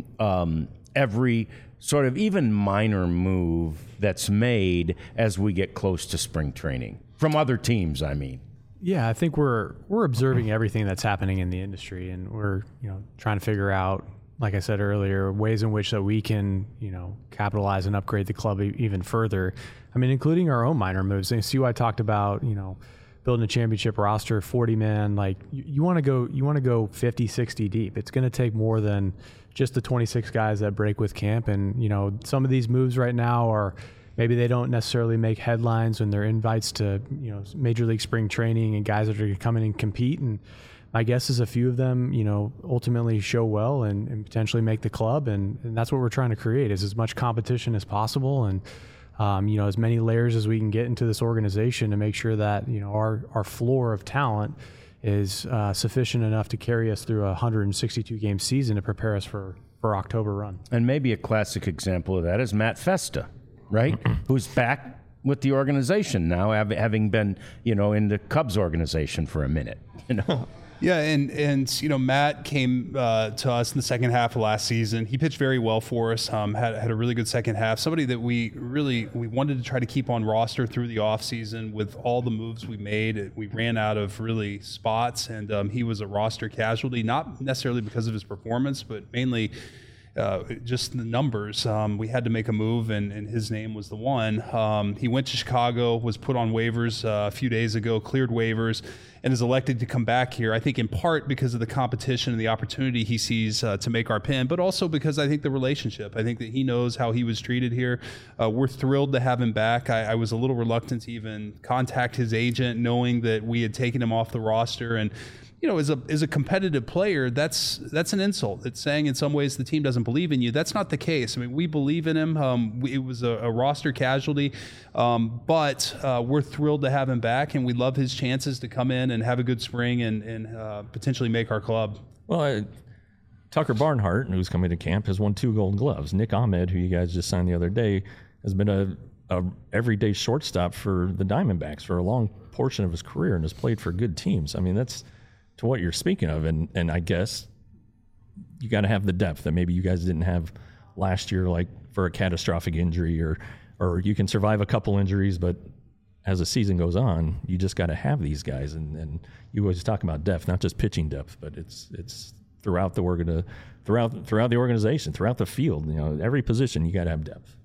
[SPEAKER 1] every sort of even minor move that's made as we get close to spring training from other teams? I mean.
[SPEAKER 4] Yeah, I think we're observing everything that's happening in the industry, and we're trying to figure out, like I said earlier, ways in which that we can capitalize and upgrade the club even further. I mean, including our own minor moves. And CY talked about building a championship roster, 40 man. Like you want to go 50, 60 deep. It's going to take more than just the 26 guys that break with camp. And some of these moves right now are. Maybe they don't necessarily make headlines when they're invites to, Major League spring training and guys that are going to come in and compete. And my guess is a few of them, ultimately show well and potentially make the club. And that's what we're trying to create is as much competition as possible. And, as many layers as we can get into this organization to make sure that, our floor of talent is sufficient enough to carry us through a 162 game season to prepare us for October run.
[SPEAKER 1] And maybe a classic example of that is Matt Festa. Right? Who's back with the organization now, having been, in the Cubs organization for a minute,
[SPEAKER 3] Yeah, and Matt came to us in the second half of last season. He pitched very well for us. Had a really good second half. Somebody that we wanted to try to keep on roster through the offseason with all the moves we made. We ran out of really spots, and he was a roster casualty, not necessarily because of his performance, but mainly just the numbers. We had to make a move, and his name was the one. He went to Chicago, was put on waivers a few days ago, cleared waivers, and is elected to come back here. I think in part because of the competition and the opportunity he sees to make our pen, but also because I think the relationship. I think that he knows how he was treated here. We're thrilled to have him back. I was a little reluctant to even contact his agent, knowing that we had taken him off the roster. And as a competitive player, that's an insult. It's saying in some ways the team doesn't believe in you. That's not the case. I mean, we believe in him. It was a roster casualty, but we're thrilled to have him back, and we love his chances to come in and have a good spring and potentially make our club.
[SPEAKER 2] Well, Tucker Barnhart, who's coming to camp, has won 2 Gold Gloves. Nick Ahmed, who you guys just signed the other day, has been a everyday shortstop for the Diamondbacks for a long portion of his career and has played for good teams. I mean, that's to what you're speaking of, and I guess you got to have the depth that maybe you guys didn't have last year, like for a catastrophic injury, or you can survive a couple injuries, but as the season goes on, you just got to have these guys, and you always talk about depth, not just pitching depth, but it's throughout the organization, throughout the field. Every position you got to have depth.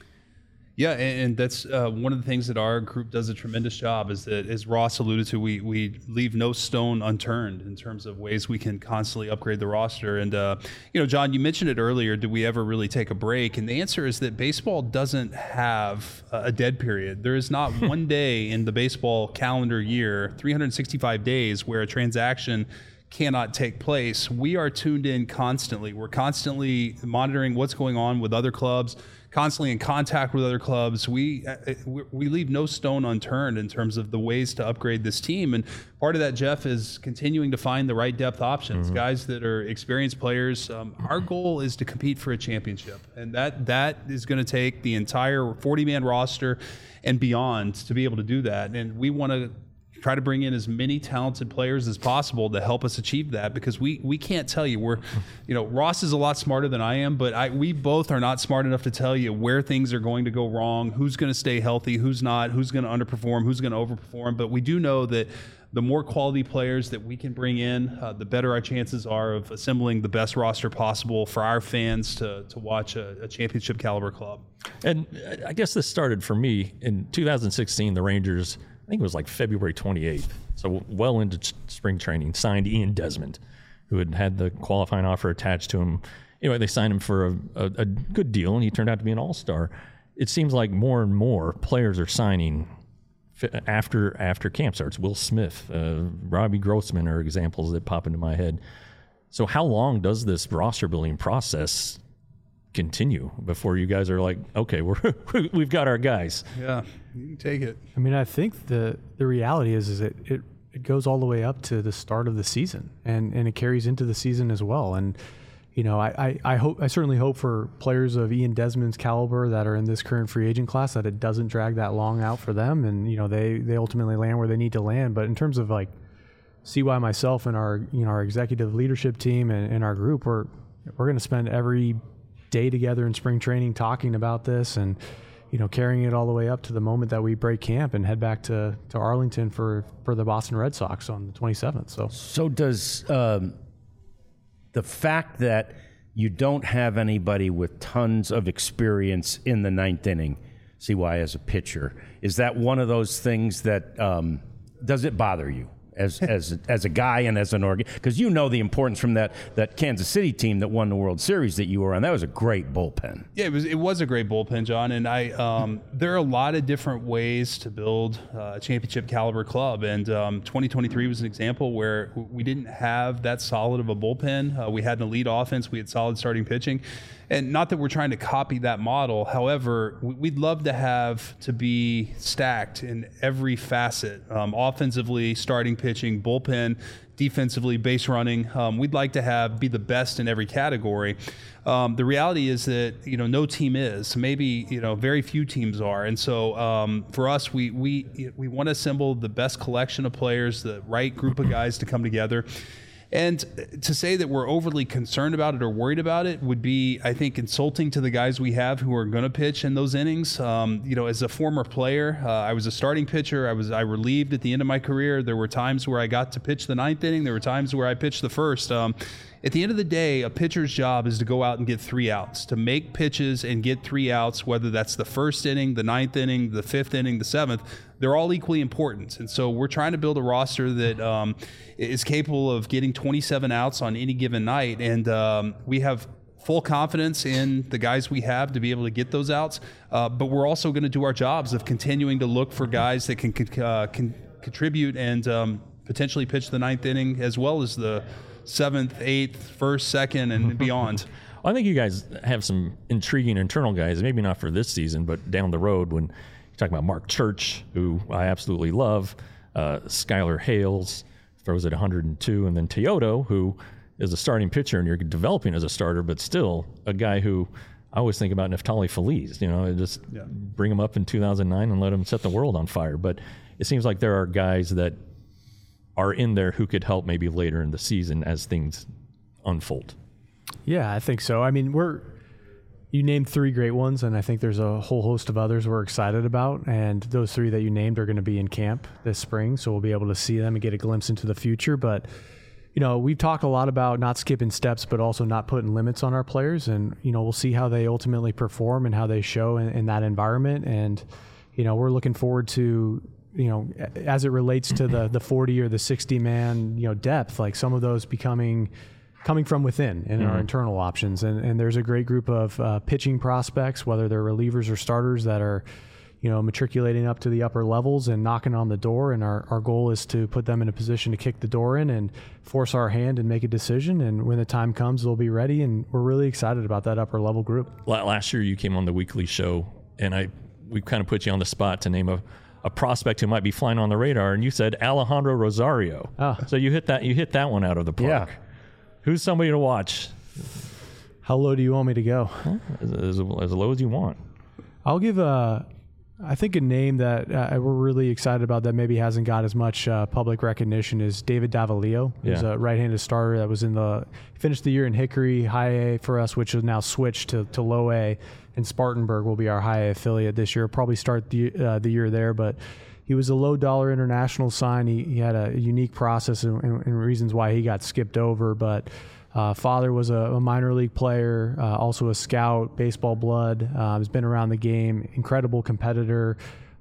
[SPEAKER 3] Yeah, and that's one of the things that our group does a tremendous job is that, as Ross alluded to, we leave no stone unturned in terms of ways we can constantly upgrade the roster. And, John, you mentioned it earlier, did we ever really take a break? And the answer is that baseball doesn't have a dead period. There is not one day in the baseball calendar year, 365 days, where a transaction cannot take place. We are tuned in constantly. We're constantly monitoring what's going on with other clubs, constantly in contact with other clubs. We leave no stone unturned in terms of the ways to upgrade this team. And part of that, Jeff, is continuing to find the right depth options, guys that are experienced players. Our goal is to compete for a championship, and that is going to take the entire 40-man roster and beyond to be able to do that. And we want to try to bring in as many talented players as possible to help us achieve that, because we can't tell you. Ross is a lot smarter than I am, but we both are not smart enough to tell you where things are going to go wrong, who's going to stay healthy, who's not, who's going to underperform, who's going to overperform. But we do know that the more quality players that we can bring in, the better our chances are of assembling the best roster possible for our fans to watch a championship caliber club.
[SPEAKER 2] And I guess this started for me in 2016, the Rangers, I think it was like February 28th, so well into spring training, signed Ian Desmond, who had the qualifying offer attached to him. Anyway, they signed him for a good deal, and he turned out to be an all-star. It seems like more and more players are signing after camp starts. Will Smith, Robbie Grossman are examples that pop into my head. So how long does this roster-building process continue before you guys are like, okay, we've got our guys?
[SPEAKER 3] Yeah, you can take it.
[SPEAKER 4] I mean, I think the reality is it goes all the way up to the start of the season, and it carries into the season as well. And I certainly hope for players of Ian Desmond's caliber that are in this current free agent class that it doesn't drag that long out for them, and they ultimately land where they need to land. But in terms of like CY, myself, and our executive leadership team and our group, we're going to spend every day together in spring training talking about this, and carrying it all the way up to the moment that we break camp and head back to Arlington for the Boston Red Sox on the 27th.
[SPEAKER 1] So does the fact that you don't have anybody with tons of experience in the ninth inning, CY, as a pitcher, is that one of those things that does it bother you as a guy and as an organ? Because the importance from that Kansas City team that won the World Series that you were on. That was a great bullpen.
[SPEAKER 3] Yeah, it was a great bullpen, John. And there are a lot of different ways to build a championship caliber club. And 2023 was an example where we didn't have that solid of a bullpen. We had an elite offense. We had solid starting pitching. And not that we're trying to copy that model. However, we'd love to be stacked in every facet, offensively, starting pitching, bullpen, defensively, base running. We'd like to be the best in every category. The reality is that, no team is. Maybe, very few teams are. And so for us, we want to assemble the best collection of players, the right group of guys to come together. And to say that we're overly concerned about it or worried about it would be, I think, insulting to the guys we have who are going to pitch in those innings. As a former player, I was a starting pitcher. I relieved at the end of my career. There were times where I got to pitch the ninth inning. There were times where I pitched the first. At the end of the day, a pitcher's job is to go out and get 3 outs, to make pitches and get 3 outs, whether that's the first inning, the 9th inning, the 5th inning, the 7th. They're all equally important. And so we're trying to build a roster that is capable of getting 27 outs on any given night. And we have full confidence in the guys we have to be able to get those outs. But we're also going to do our jobs of continuing to look for guys that can contribute and potentially pitch the 9th inning as well as the 7th, 8th, 1st, 2nd, and beyond.
[SPEAKER 2] I think you guys have some intriguing internal guys, maybe not for this season, but down the road when you're talking about Mark Church, who I absolutely love, Skylar Hales throws at 102, and then Teodo, who is a starting pitcher and you're developing as a starter, but still a guy who I always think about Neftali Feliz, just bring him up in 2009 and let him set the world on fire. But it seems like there are guys that are in there who could help maybe later in the season as things unfold.
[SPEAKER 4] Yeah, I think so. I mean, you named 3 great ones, and I think there's a whole host of others we're excited about. And those 3 that you named are going to be in camp this spring, so we'll be able to see them and get a glimpse into the future. But we've talked a lot about not skipping steps, but also not putting limits on our players. And, we'll see how they ultimately perform and how they show in that environment. And, we're looking forward to, as it relates to the 40 or the 60 man, depth, like some of those coming from within in our internal options. And there's a great group of pitching prospects, whether they're relievers or starters, that are, matriculating up to the upper levels and knocking on the door. And our goal is to put them in a position to kick the door in and force our hand and make a decision. And when the time comes, they'll be ready. And we're really excited about that upper level group.
[SPEAKER 2] Last year you came on the weekly show, and we kind of put you on the spot to name a prospect who might be flying on the radar, and you said Alejandro Rosario. So you hit that one out of the park.
[SPEAKER 1] Yeah.
[SPEAKER 2] Who's somebody to watch?
[SPEAKER 4] How low do you want me to go?
[SPEAKER 2] As low as you want.
[SPEAKER 4] I'll give I think a name that we're really excited about that maybe hasn't got as much public recognition is David Davalillo. He's a right-handed starter that was finished the year in Hickory, high A for us, which is now switched to low A, and Spartanburg will be our high A affiliate this year. Probably start the year there, but he was a low-dollar international sign. He had a unique process and reasons why he got skipped over, but father was a minor league player, also a scout, baseball blood, has been around the game, incredible competitor,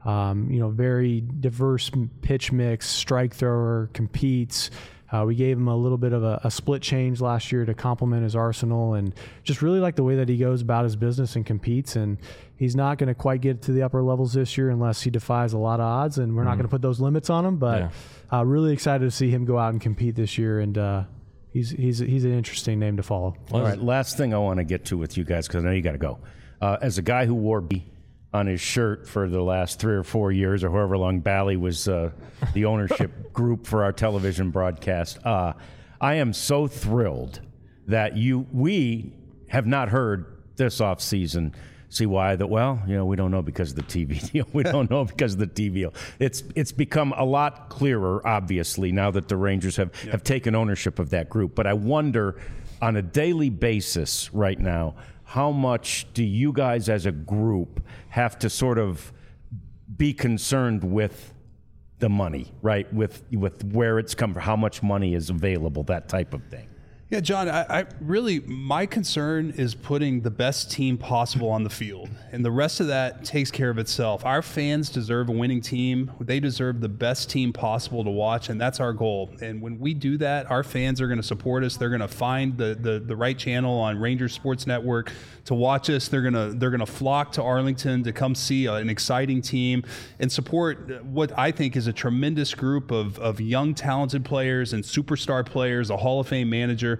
[SPEAKER 4] very diverse pitch mix, strike thrower, competes. We gave him a little bit of a split change last year to complement his arsenal, and just really like the way that he goes about his business and competes. And he's not going to quite get to the upper levels this year unless he defies a lot of odds, and we're not going to put those limits on him, but really excited to see him go out and compete this year. And He's an interesting name to follow.
[SPEAKER 1] All right, last thing I want to get to with you guys, because I know you got to go. As a guy who wore B on his shirt for the last 3 or 4 years, or however long Bally was the ownership group for our television broadcast, I am so thrilled that we have not heard this offseason. See why? We don't know because of the TV deal. We don't know because of the TV deal. It's become a lot clearer, obviously, now that the Rangers have taken ownership of that group. But I wonder, on a daily basis right now, how much do you guys as a group have to sort of be concerned with the money, right? With where it's come from, how much money is available, that type of thing.
[SPEAKER 3] Yeah, John, I really, my concern is putting the best team possible on the field, and the rest of that takes care of itself. Our fans deserve a winning team. They deserve the best team possible to watch, and that's our goal. And when we do that, our fans are going to support us. They're going to find the right channel on Rangers Sports Network to watch us. They're going to flock to Arlington to come see an exciting team and support what I think is a tremendous group of young, talented players and superstar players, a Hall of Fame manager.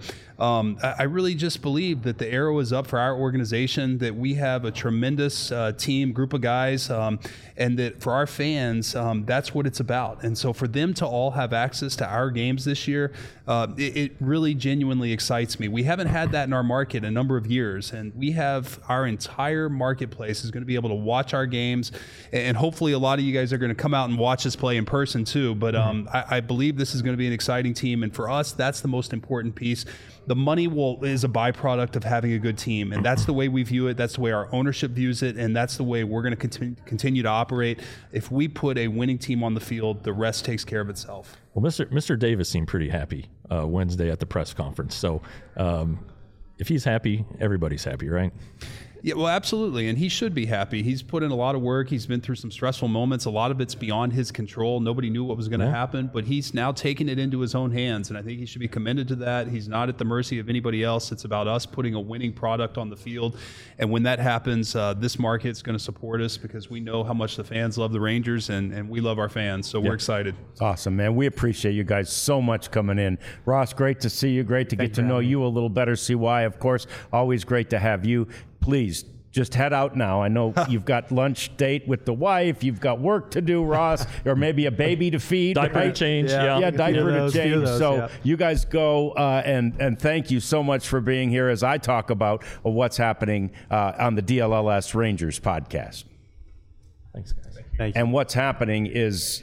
[SPEAKER 3] I really just believe that the arrow is up for our organization, that we have a tremendous team, group of guys, and that for our fans, that's what it's about. And so for them to all have access to our games this year, it really genuinely excites me. We haven't had that in our market a number of years, and we have our entire marketplace is going to be able to watch our games, and hopefully a lot of you guys are going to come out and watch us play in person too. But I believe this is going to be an exciting team, and for us, that's the most important piece. the money is a byproduct of having a good team, and that's the way we view it. That's the way our ownership views it, and that's the way we're going to continue to operate. If we put a winning team on the field, the rest takes care of itself.
[SPEAKER 2] Well, Mr. Davis seemed pretty happy Wednesday at the press conference. So if he's happy, everybody's happy, right?
[SPEAKER 3] Yeah, well, absolutely, and he should be happy. He's put in a lot of work. He's been through some stressful moments. A lot of it's beyond his control. Nobody knew what was going to happen, but he's now taken it into his own hands, and I think he should be commended to that. He's not at the mercy of anybody else. It's about us putting a winning product on the field, and when that happens, this market's going to support us because we know how much the fans love the Rangers, and we love our fans, so we're excited.
[SPEAKER 1] It's awesome, man. We appreciate you guys so much coming in. Ross, great to see you. Great to get to know you a little better. CY, of course, always great to have you. Please, just head out now. I know you've got lunch date with the wife. You've got work to do, Ross, or maybe a baby to feed.
[SPEAKER 2] Diaper to change.
[SPEAKER 1] Yeah, diaper to change. So you guys go, and thank you so much for being here as I talk about what's happening on the DLLS Rangers podcast.
[SPEAKER 2] Thanks, guys.
[SPEAKER 4] Thank you.
[SPEAKER 1] And what's happening is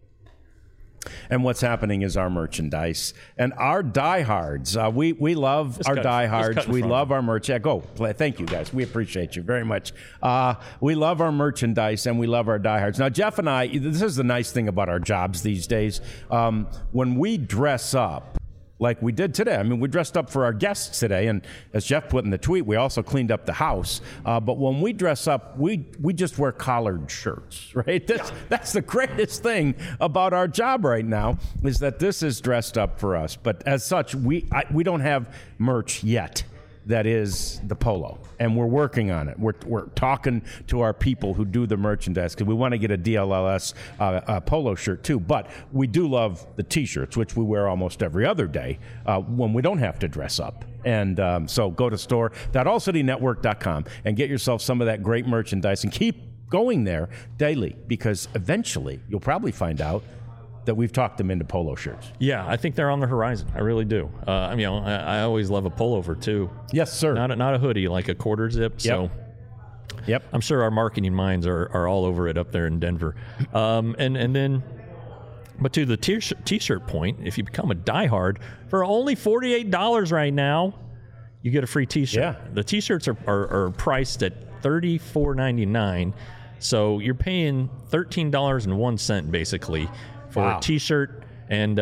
[SPEAKER 1] our merchandise and our diehards. We love our diehards. We love our merch. Yeah, go play. Thank you, guys. We appreciate you very much. We love our merchandise and we love our diehards. Now, Jeff and I, this is the nice thing about our jobs these days. When we dress up, like we did today. I mean, we dressed up for our guests today, and as Jeff put in the tweet, we also cleaned up the house. But when we dress up, we just wear collared shirts, right? That's the greatest thing about our job right now is that this is dressed up for us. But as such, we don't have merch yet. That is the polo, and we're working on it. We're talking to our people who do the merchandise because we want to get a DLLS polo shirt too. But we do love the T-shirts, which we wear almost every other day when we don't have to dress up. And so go to store.allcitynetwork.com and get yourself some of that great merchandise and keep going there daily because eventually you'll probably find out that we've talked them into polo shirts.
[SPEAKER 2] Yeah, I think they're on the horizon. I really do. I always love a pullover too.
[SPEAKER 1] Yes, sir.
[SPEAKER 2] Not a hoodie, like a quarter zip. So,
[SPEAKER 1] yep.
[SPEAKER 2] I'm sure our marketing minds are all over it up there in Denver. And then, but to the t-shirt point, if you become a diehard for only $48 right now, you get a free t-shirt.
[SPEAKER 1] Yeah.
[SPEAKER 2] The t-shirts are priced at $34.99, so you're paying $13.01 basically for a t-shirt and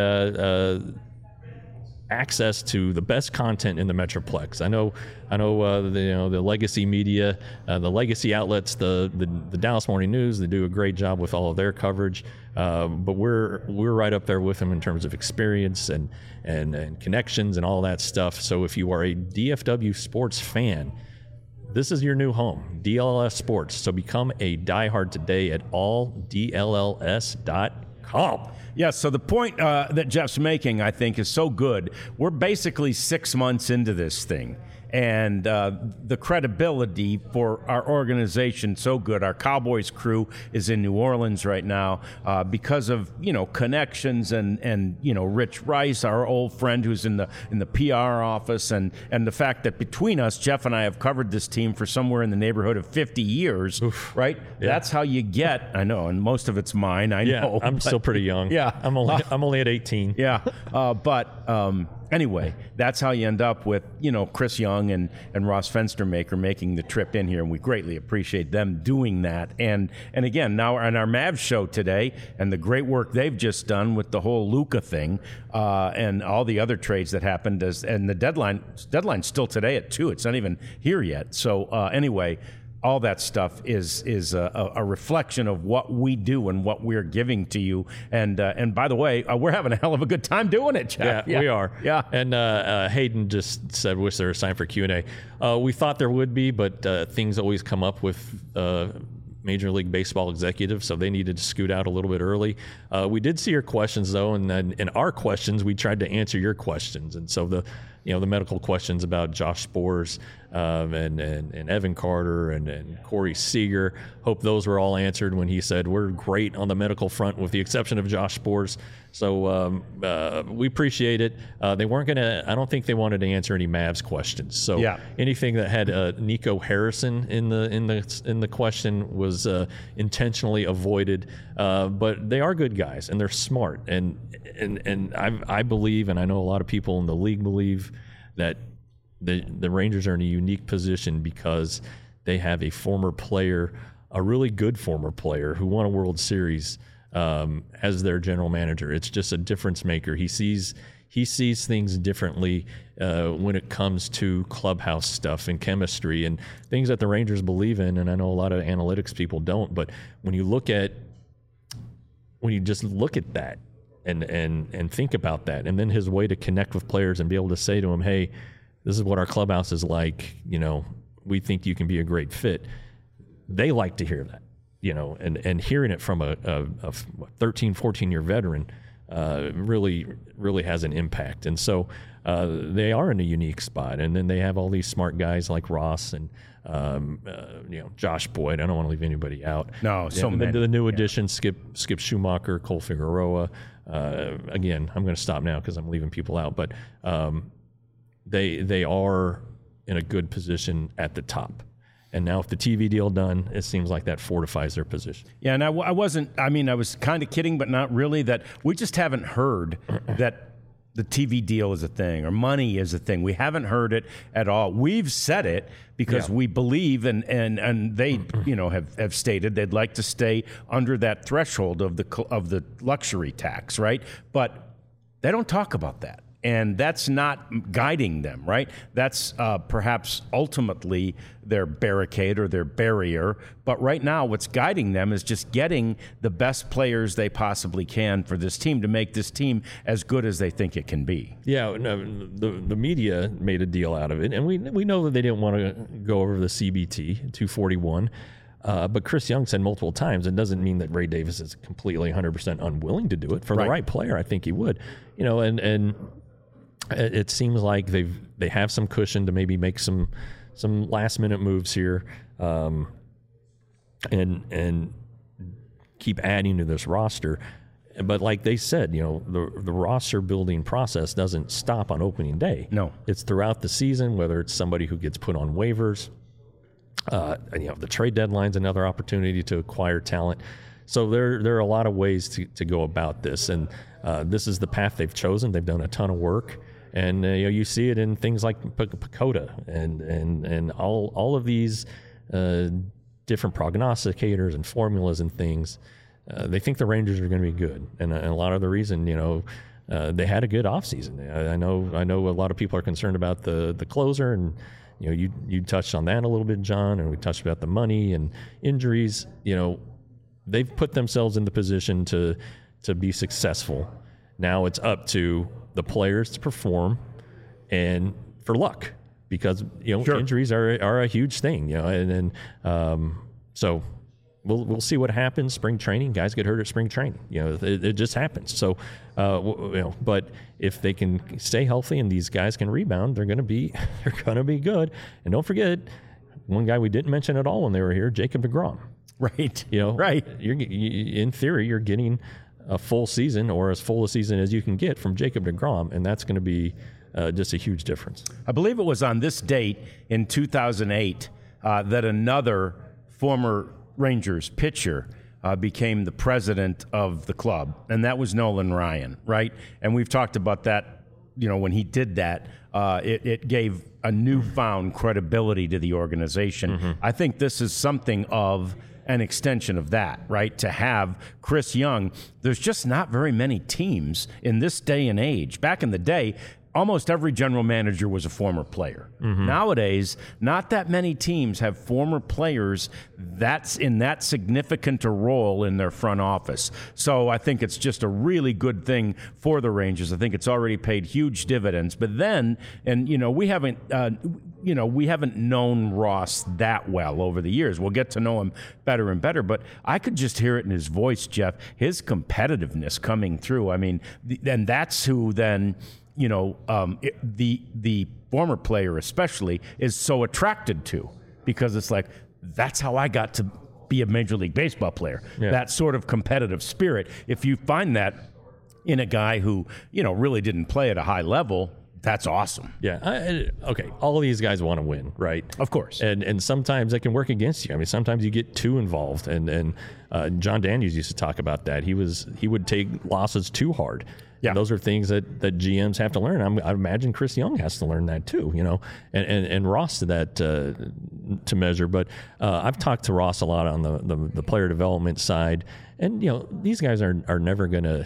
[SPEAKER 2] access to the best content in the Metroplex. I know the legacy media, the legacy outlets, the Dallas Morning News, they do a great job with all of their coverage. But we're right up there with them in terms of experience and connections and all that stuff. So if you are a DFW sports fan, this is your new home, DLLS Sports. So become a diehard today at alldlls.com.
[SPEAKER 1] Yes, so the point that Jeff's making, I think, is so good. We're basically 6 months into this thing. And the credibility for our organization so good. Our Cowboys crew is in New Orleans right now because of connections and Rich Rice, our old friend who's in the PR office, and the fact that between us, Jeff and I have covered this team for somewhere in the neighborhood of 50 years. Oof. Right? Yeah. That's how you get. I know, and most of it's mine. I know.
[SPEAKER 2] I'm still pretty young.
[SPEAKER 1] Yeah,
[SPEAKER 2] I'm only at 18.
[SPEAKER 1] Yeah, but. Anyway, that's how you end up with, Chris Young and Ross Fenstermaker making the trip in here, and we greatly appreciate them doing that. And again, now on our Mavs show today, and the great work they've just done with the whole Luka thing and all the other trades that happened, and the deadline's still today at 2. It's not even here yet. So anyway, all that stuff is a reflection of what we do and what we're giving to you. And by the way, we're having a hell of a good time doing it, Jeff.
[SPEAKER 2] Yeah, we are.
[SPEAKER 1] Yeah.
[SPEAKER 2] And Hayden just said, "Was there a sign for Q&A?" We thought there would be, but things always come up with Major League Baseball executives, so they needed to scoot out a little bit early. We did see your questions though, and then in our questions, we tried to answer your questions. And so the medical questions about Josh Sborz and Evan Carter and Corey Seager. Hope those were all answered when he said we're great on the medical front with the exception of Josh Sborz. So we appreciate it. They weren't going to, I don't think they wanted to answer any Mavs questions. So anything that had Nico Harrison in the question was intentionally avoided. But they are good guys and they're smart. And I believe, and I know a lot of people in the league believe, that the Rangers are in a unique position because they have a former player, a really good former player who won a World Series as their general manager. It's just a difference maker. He sees things differently when it comes to clubhouse stuff and chemistry and things that the Rangers believe in. And I know a lot of analytics people don't, but when you just look at that and think about that, and then his way to connect with players and be able to say to them, hey, this is what our clubhouse is like, we think you can be a great fit. They like to hear that, and hearing it from a 13, 14-year veteran really has an impact. And so they are in a unique spot. And then they have all these smart guys like Ross and Josh Boyd. I don't want to leave anybody out.
[SPEAKER 1] No, so many.
[SPEAKER 2] The new additions, Skip Schumacher, Cole Figueroa. Again, I'm going to stop now because I'm leaving people out. But they are in a good position at the top. And now if the TV deal done, it seems like that fortifies their position.
[SPEAKER 1] Yeah, and I was kind of kidding, but not really, that we just haven't heard that the TV deal is a thing or money is a thing. We haven't heard it at all. We've said it because we believe and they have stated they'd like to stay under that threshold of the luxury tax, right? But they don't talk about that. And that's not guiding them, right? That's perhaps ultimately their barricade or their barrier. But right now, what's guiding them is just getting the best players they possibly can for this team to make this team as good as they think it can be.
[SPEAKER 2] Yeah, no, the media made a deal out of it. And we know that they didn't want to go over the CBT, 241. But Chris Young said multiple times, it doesn't mean that Ray Davis is completely 100% unwilling to do it. For the right player, I think he would. And it seems like they have some cushion to maybe make some last minute moves here, and keep adding to this roster. But like they said, the roster building process doesn't stop on opening day.
[SPEAKER 1] No,
[SPEAKER 2] it's throughout the season. Whether it's somebody who gets put on waivers, the trade deadline's another opportunity to acquire talent. So there are a lot of ways to go about this, and this is the path they've chosen. They've done a ton of work. And you see it in things like PECOTA and all of these different prognosticators and formulas and things. They think the Rangers are going to be good, and a lot of the reason they had a good offseason. I know a lot of people are concerned about the closer, and you touched on that a little bit, John, and we touched about the money and injuries. They've put themselves in the position to be successful. Now it's up to the players to perform and for luck, because injuries are a huge thing, so we'll see what happens. Spring training, guys get hurt at spring training, it just happens. So but if they can stay healthy and these guys can rebound, they're going to be good. And don't forget one guy we didn't mention at all when they were here, Jacob deGrom.
[SPEAKER 1] Right.
[SPEAKER 2] Right. In theory, you're getting a full season, or as full a season as you can get from Jacob deGrom, and that's going to be just a huge difference.
[SPEAKER 1] I believe it was on this date in 2008 that another former Rangers pitcher became the president of the club, and that was Nolan Ryan, right? And we've talked about that, when he did that, it gave a newfound credibility to the organization. Mm-hmm. I think this is something of an extension of that, right? To have Chris Young, there's just not very many teams in this day and age. Back in the day, almost every general manager was a former player. Mm-hmm. Nowadays, not that many teams have former players that's in that significant a role in their front office. So I think it's just a really good thing for the Rangers. I think it's already paid huge dividends. But then, and we haven't known Ross that well over the years. We'll get to know him better and better, but I could just hear it in his voice, Jeff, his competitiveness coming through. I mean, and that's who then, the former player especially is so attracted to, because it's like, that's how I got to be a Major League Baseball player. Yeah. That sort of competitive spirit. If you find that in a guy who, really didn't play at a high level, that's awesome.
[SPEAKER 2] Yeah. Okay. All of these guys want to win, right?
[SPEAKER 1] Of course.
[SPEAKER 2] And sometimes that can work against you. I mean, sometimes you get too involved. And John Daniels used to talk about that. He would take losses too hard.
[SPEAKER 1] Yeah.
[SPEAKER 2] And those are things that GMs have to learn. I imagine Chris Young has to learn that too, and Ross to that to measure. But I've talked to Ross a lot on the player development side, and these guys are never going to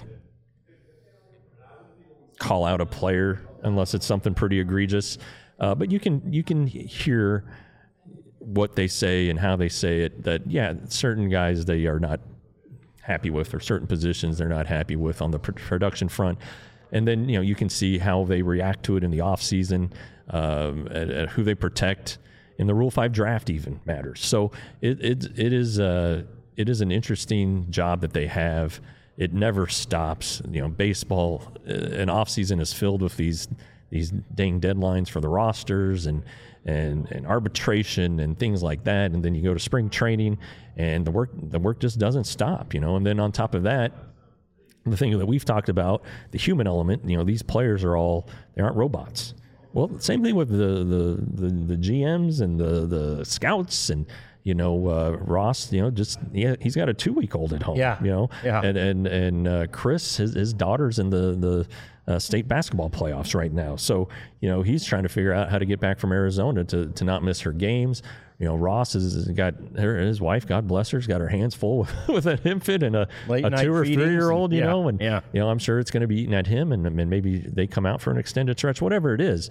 [SPEAKER 2] call out a player unless it's something pretty egregious. But you can hear what they say and how they say it. That certain guys they are not happy with, or certain positions they're not happy with on the production front, and then you can see how they react to it in the off season, who they protect in the Rule 5 draft even matters. So it is an interesting job that they have. It never stops. Baseball, an off season is filled with these dang deadlines for the rosters and arbitration and things like that, and then you go to spring training and the work just doesn't stop, and then on top of that, the thing that we've talked about, the human element, these players they aren't robots. Well, same thing with the GMs and the scouts and Ross, he's got a 2-week-old at home.
[SPEAKER 1] Yeah.
[SPEAKER 2] And Chris, his daughter's in the state basketball playoffs right now. So, he's trying to figure out how to get back from Arizona to not miss her games. Ross has got his wife, God bless her, has got her hands full with an infant and a 2 or 3-year-old, I'm sure it's going to be eating at him, and maybe they come out for an extended stretch, whatever it is.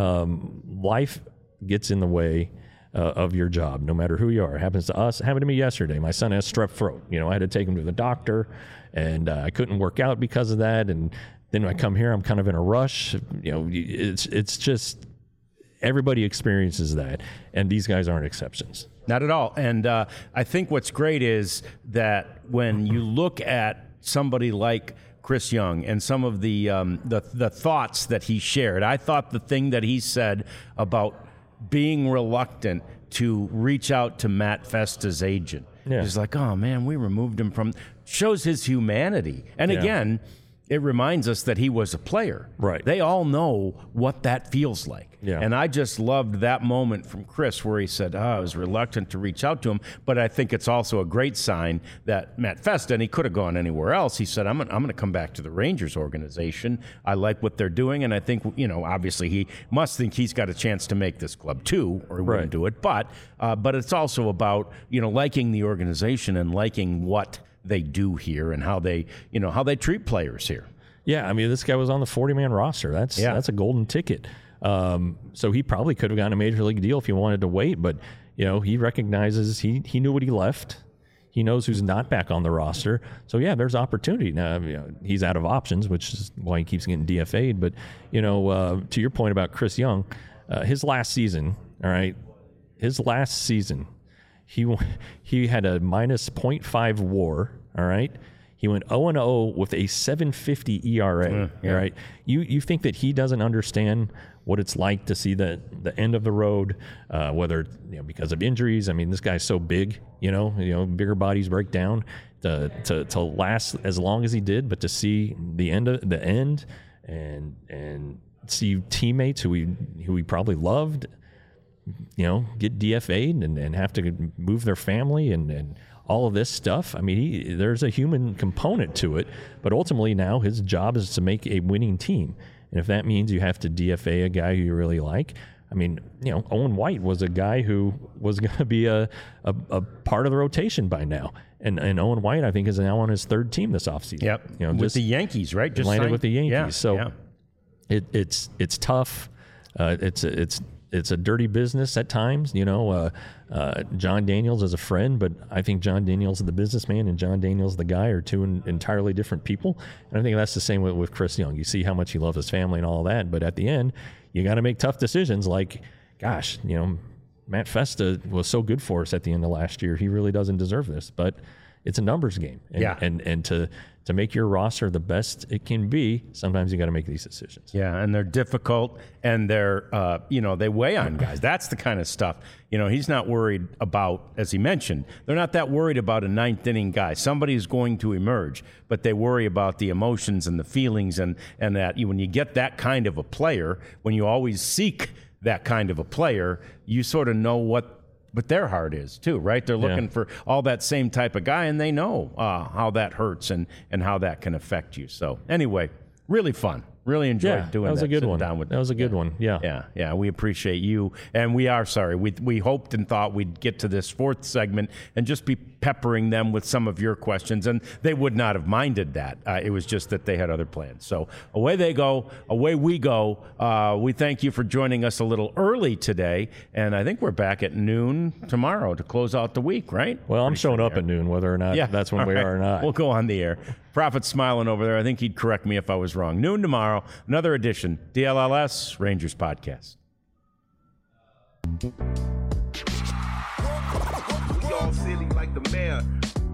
[SPEAKER 2] Life gets in the way of your job, no matter who you are. It happens to us. It happened to me yesterday. My son has strep throat. I had to take him to the doctor, and I couldn't work out because of that. And then when I come here, I'm kind of in a rush. It's just everybody experiences that, and these guys aren't exceptions.
[SPEAKER 1] Not at all. And I think what's great is that when you look at somebody like Chris Young and some of the thoughts that he shared, I thought the thing that he said about being reluctant to reach out to Matt Festa's agent.
[SPEAKER 2] Yeah.
[SPEAKER 1] He's like, oh man, we removed him from, shows his humanity. And again, it reminds us that he was a player.
[SPEAKER 2] Right.
[SPEAKER 1] They all know what that feels like.
[SPEAKER 2] Yeah.
[SPEAKER 1] And I just loved that moment from Chris where he said, I was reluctant to reach out to him, but I think it's also a great sign that Matt Festa, and he could have gone anywhere else, he said, I'm going to come back to the Rangers organization. I like what they're doing, and I think, obviously he must think he's got a chance to make this club too, or he wouldn't do it. But it's also about, liking the organization and liking what they do here and how they treat players here.
[SPEAKER 2] Yeah, I mean, this guy was on the 40-man roster. That's a golden ticket. So he probably could have gotten a major league deal if he wanted to wait, but he recognizes he knew what he left. He knows who's not back on the roster. So there's opportunity. Now, he's out of options, which is why he keeps getting DFA'd. But to your point about Chris Young, his last season, he had a minus .5 WAR. All right. He went 0-0 with a 7.50 ERA. All right. You think that he doesn't understand what it's like to see the end of the road, whether because of injuries. I mean, this guy's so big. Bigger bodies break down. To last as long as he did, but to see the end and see teammates who he probably loved, get DFA'd and have to move their family and all of this stuff. I mean, there's a human component to it, but ultimately now his job is to make a winning team. And if that means you have to DFA a guy who you really like, I mean, Owen White was a guy who was going to be a part of the rotation by now. And Owen White, I think, is now on his third team this offseason.
[SPEAKER 1] Yep. With the Yankees, right?
[SPEAKER 2] Just landed with the Yankees. So it's tough. It's a dirty business at times. John Daniels is a friend, but I think John Daniels the businessman and John Daniels the guy are two entirely different people. And I think that's the same with Chris Young. You see how much he loves his family and all that, but at the end, you got to make tough decisions. Like, gosh, Matt Festa was so good for us at the end of last year. He really doesn't deserve this, but it's a numbers game. And to make your roster the best it can be, sometimes you got to make these decisions.
[SPEAKER 1] Yeah, and they're difficult, and they're, they weigh on guys. That's the kind of stuff. He's not worried about, as he mentioned, they're not that worried about a ninth inning guy. Somebody's going to emerge, but they worry about the emotions and the feelings, and that when you get that kind of a player, when you always seek that kind of a player, you sort of know what their heart is too, right? They're looking for all that same type of guy, and they know how that hurts and how that can affect you. So anyway, really fun. Really enjoyed doing that.
[SPEAKER 2] That was a good one.
[SPEAKER 1] That
[SPEAKER 2] was a good one. Yeah.
[SPEAKER 1] Yeah. We appreciate you. And we are sorry. We hoped and thought we'd get to this fourth segment and just be peppering them with some of your questions. And they would not have minded that. It was just that they had other plans. So away they go. Away we go. We thank you for joining us a little early today. And I think we're back at noon tomorrow to close out the week, right?
[SPEAKER 2] Well, I'm showing up at noon, whether or not that's when we are or not.
[SPEAKER 1] We'll go on the air. Prophet's smiling over there. I think he'd correct me if I was wrong. Noon tomorrow, another edition, DLLS Rangers Podcast.
[SPEAKER 5] We all silly like the mayor.